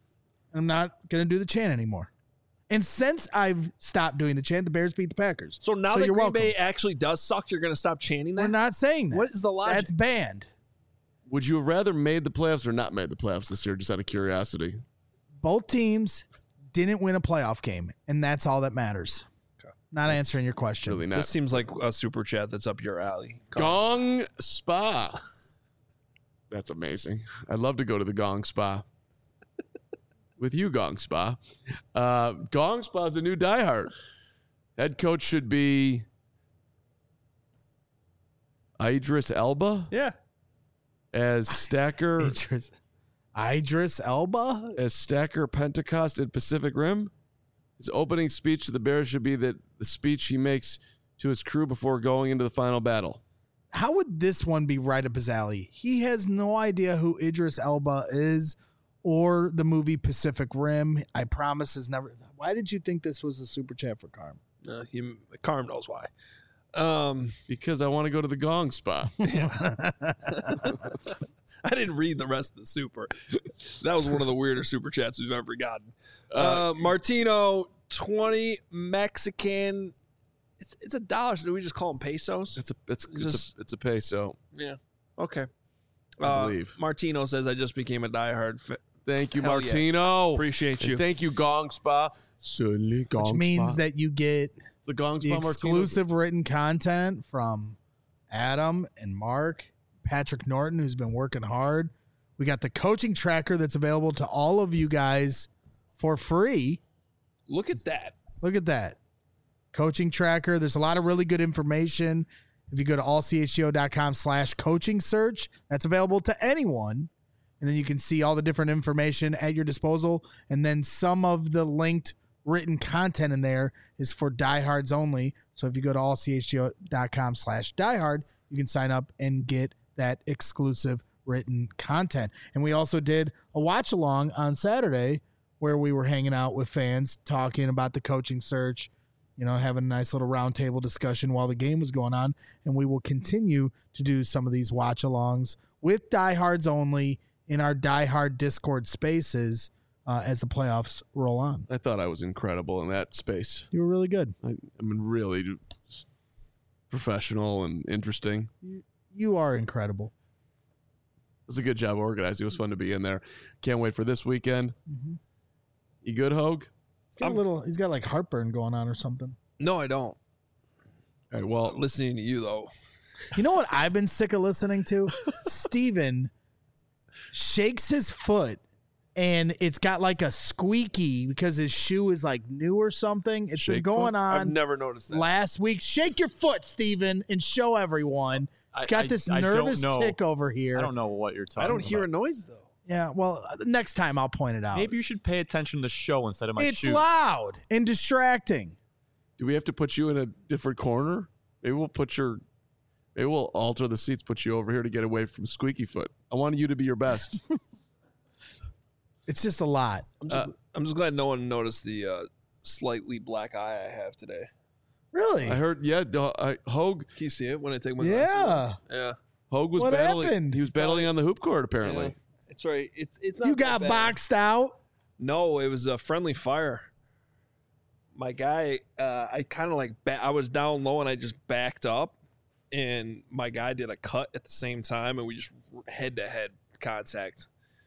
I'm not going to do the chant anymore. And since I've stopped doing the chant, the Bears beat the Packers. So now that you're Green welcome. Bay actually does suck, you're going to stop chanting that? We're not saying that. What is the logic? That's banned. Would you have rather made the playoffs or not made the playoffs this year, just out of curiosity? Both teams didn't win a playoff game, and that's all that matters. Okay. Not answering your question. Really not. This seems like a super chat that's up your alley. Gong Spa. That's amazing. I'd love to go to the Gong Spa. With you, Gong Spa. Gong Spa is the new diehard. Head coach should be Idris Elba Yeah. as Stacker Idris Elba? as Stacker Pentecost at Pacific Rim. His opening speech to the Bears should be the speech he makes to his crew before going into the final battle. How would this one be right up his alley? He has no idea who Idris Elba is or the movie Pacific Rim. I promise has never. Why did you think this was a super chat for Carm? Carm knows why. Because I want to go to the Gong Spa. I didn't read the rest of the super. That was one of the weirder super chats we've ever gotten. Martino, 20 Mexican. It's $1. Do we just call them pesos? It's a peso. Yeah. Okay. I believe. Martino says, I just became a diehard. Thank you, Hell yeah. Martino. Appreciate you. And thank you, Gong Spa. Certainly, Gong Which Spa. means that you get the Gong the Spa exclusive written content from Adam and Mark, Patrick Norton, who's been working hard. We got the coaching tracker that's available to all of you guys for free. Look at that. Look at that. Coaching tracker. There's a lot of really good information. If you go to allchgo.com/coaching search, that's available to anyone. And then you can see all the different information at your disposal. And then some of the linked written content in there is for diehards only. So if you go to allchgo.com/diehard, you can sign up and get that exclusive written content. And we also did a watch along on Saturday where we were hanging out with fans talking about the coaching search, having a nice little roundtable discussion while the game was going on. And we will continue to do some of these watch alongs with diehards only in our diehard Discord spaces as the playoffs roll on. I thought I was incredible in that space. You were really good. I mean, really professional and interesting. You are incredible. It was a good job organized. It was fun to be in there. Can't wait for this weekend. Mm-hmm. You good, Hogue? He's got like heartburn going on or something. No, I don't. All right, well, Listening to you, though. You know what I've been sick of listening to? Steven shakes his foot and it's got like a squeaky because his shoe is like new or something. It's been Shake going foot? I've on never noticed that. last week. Shake your foot, Steven, and show everyone. He's got this I don't nervous know. tick over here. I don't know what you're talking I about. don't hear a noise, though. Yeah, well, next time I'll point it out. Maybe you should pay attention to the show instead of my it's shoes. loud and distracting. do we have to put you in a different corner? Maybe we'll alter the seats, put you over here to get away from Squeaky Foot. I wanted you to be your best. It's just a lot. I'm just glad no one noticed the slightly black eye I have today. Really? I heard, Hogue Can you see it when I take my glasses Yeah. off? Yeah. Hogue was What battling. happened? He was battling on the hoop court, apparently. Yeah. It's right. It's not You that got bad. boxed out. No, it was a friendly fire. My guy, I kind of like, I was down low and I just backed up, and my guy did a cut at the same time, and we just head-to-head contact.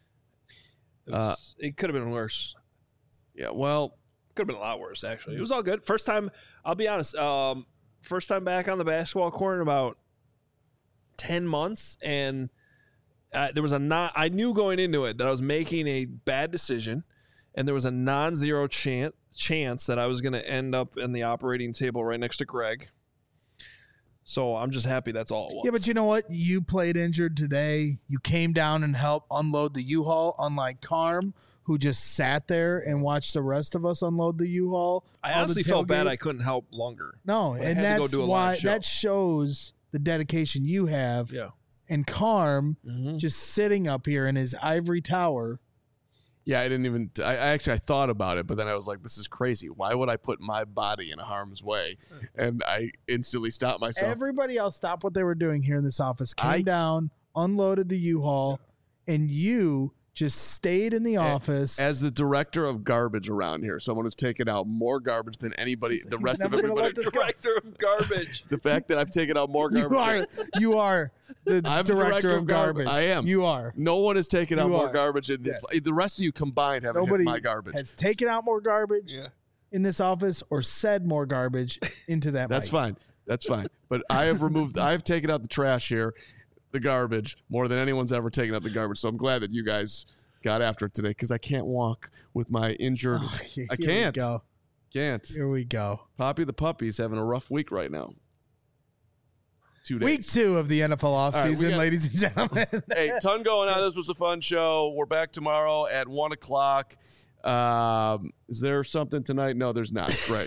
It could have been worse. Yeah, well, Could have been a lot worse, actually. It was all good. First time, I'll be honest, first time back on the basketball court in about 10 months, and there was I knew going into it that I was making a bad decision, and there was a non-zero chance that I was going to end up in the operating table right next to Greg. So I'm just happy that's all it was. Yeah, but you know what? You played injured today. You came down and helped unload the U-Haul, unlike Carm, who just sat there and watched the rest of us unload the U-Haul. I on the honestly felt bad tailgate. I couldn't help longer. No, But I and had to go that's do a live why show. that shows the dedication you have. Yeah. And Carm Mm-hmm. just sitting up here in his ivory tower. yeah, I didn't even. I thought about it, but then I was like, "This is crazy. Why would I put my body in harm's way?" And I instantly stopped myself. Everybody else stopped what they were doing here in this office, came I- down, unloaded the U-Haul, and you just stayed in the office. As the director of garbage around here, someone who's taken out more garbage than anybody, the rest of never gonna everybody. let this go. Director of garbage. The fact that I've taken out more garbage. You are the I'm the director of garbage. I am. You are. No one has taken out You more are. garbage in this. The rest of you combined haven't Nobody hit my garbage. has taken out more garbage in this office or said more garbage into that That's mic. fine. That's fine. But I have taken out the trash here, the garbage, more than anyone's ever taken out the garbage. So I'm glad that you guys got after it today because I can't walk with my injured. Oh, here I can't. We go. Can't. Here we go. Poppy the puppy's having a rough week right now. 2 days. Week 2 of the NFL offseason, we got- ladies and gentlemen. Hey, ton going on. This was a fun show. We're back tomorrow at 1 o'clock. Is there something tonight? No, there's not. Right.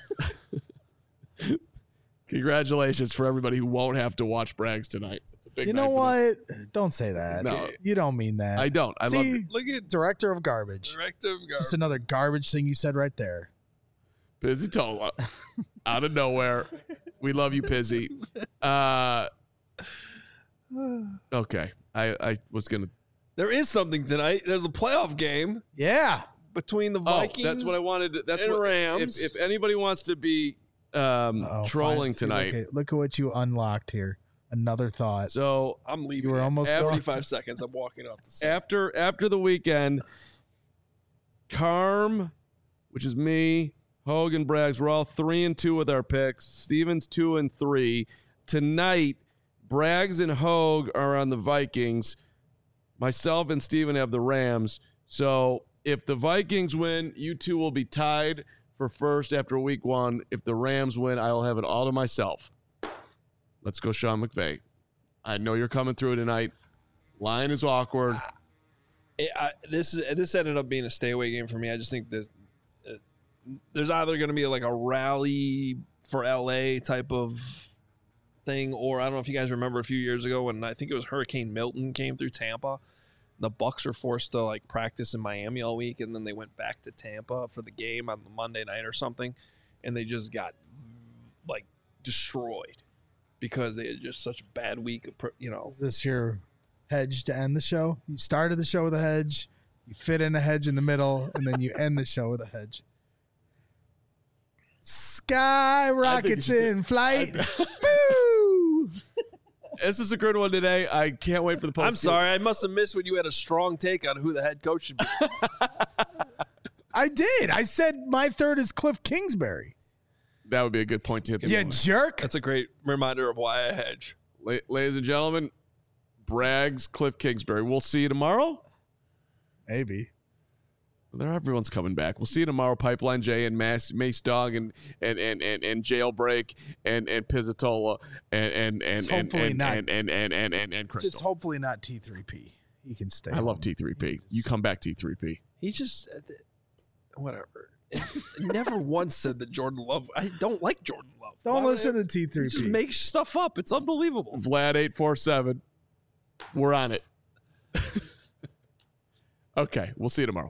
Congratulations for everybody who won't have to watch Braggs tonight. It's a big You night know for them. what? Don't say that. No. You don't mean that. I don't. I love See, it. Look at director of garbage. director of garbage. Just another garbage thing you said right there. Pizzitola. Out of nowhere. We love you, Pizzy. Okay. I was going to. There is something tonight. There's a playoff game Yeah. between the Vikings. That's what I wanted to. That's and what. Rams. If anybody wants to be trolling See, tonight. Look at what you unlocked here. Another thought. So I'm leaving. You were in almost going. 45 seconds. I'm walking off the set. after the weekend, Carm, which is me, Hogue and Braggs, we're all 3-2 with our picks. Steven's 2-3. Tonight, Braggs and Hogue are on the Vikings. Myself and Steven have the Rams. So if the Vikings win, you two will be tied for first after week 1. If the Rams win, I will have it all to myself. Let's go, Sean McVay. I know you're coming through tonight. Line is awkward. This ended up being a stay away game for me. I just think there's either going to be like a rally for LA type of thing, or I don't know if you guys remember a few years ago when I think it was Hurricane Milton came through Tampa. The Bucks were forced to like practice in Miami all week, and then they went back to Tampa for the game on the Monday night or something, and they just got like destroyed because they had just such a bad week. Is this your hedge to end the show? You started the show with a hedge, you fit in a hedge in the middle, and then you end the show with a hedge. Sky rockets in flight. Woo! This is a good one today. I can't wait for the post. I'm sorry, I must have missed when you had a strong take on who the head coach should be. I did. I said my third is Cliff Kingsbury. That would be a good point to hit. You jerk. That's a great reminder of why I hedge. Ladies and gentlemen, Braggs, Cliff Kingsbury. We'll see you tomorrow. Maybe. Everyone's coming back. We'll see you tomorrow. Pipeline J and Mace Dog and Jailbreak and Pizzitola and hopefully not. and Crystal. Just hopefully not T3P. He can stay. I love T3P. You come back, T3P. He just whatever. Never once said that Jordan Love. I don't like Jordan Love. Don't Why listen would to He T3P. just makes stuff up. It's unbelievable. Vlad 847. We're on it. Okay, we'll see you tomorrow.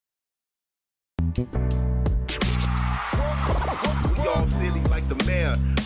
We all silly like the mayor.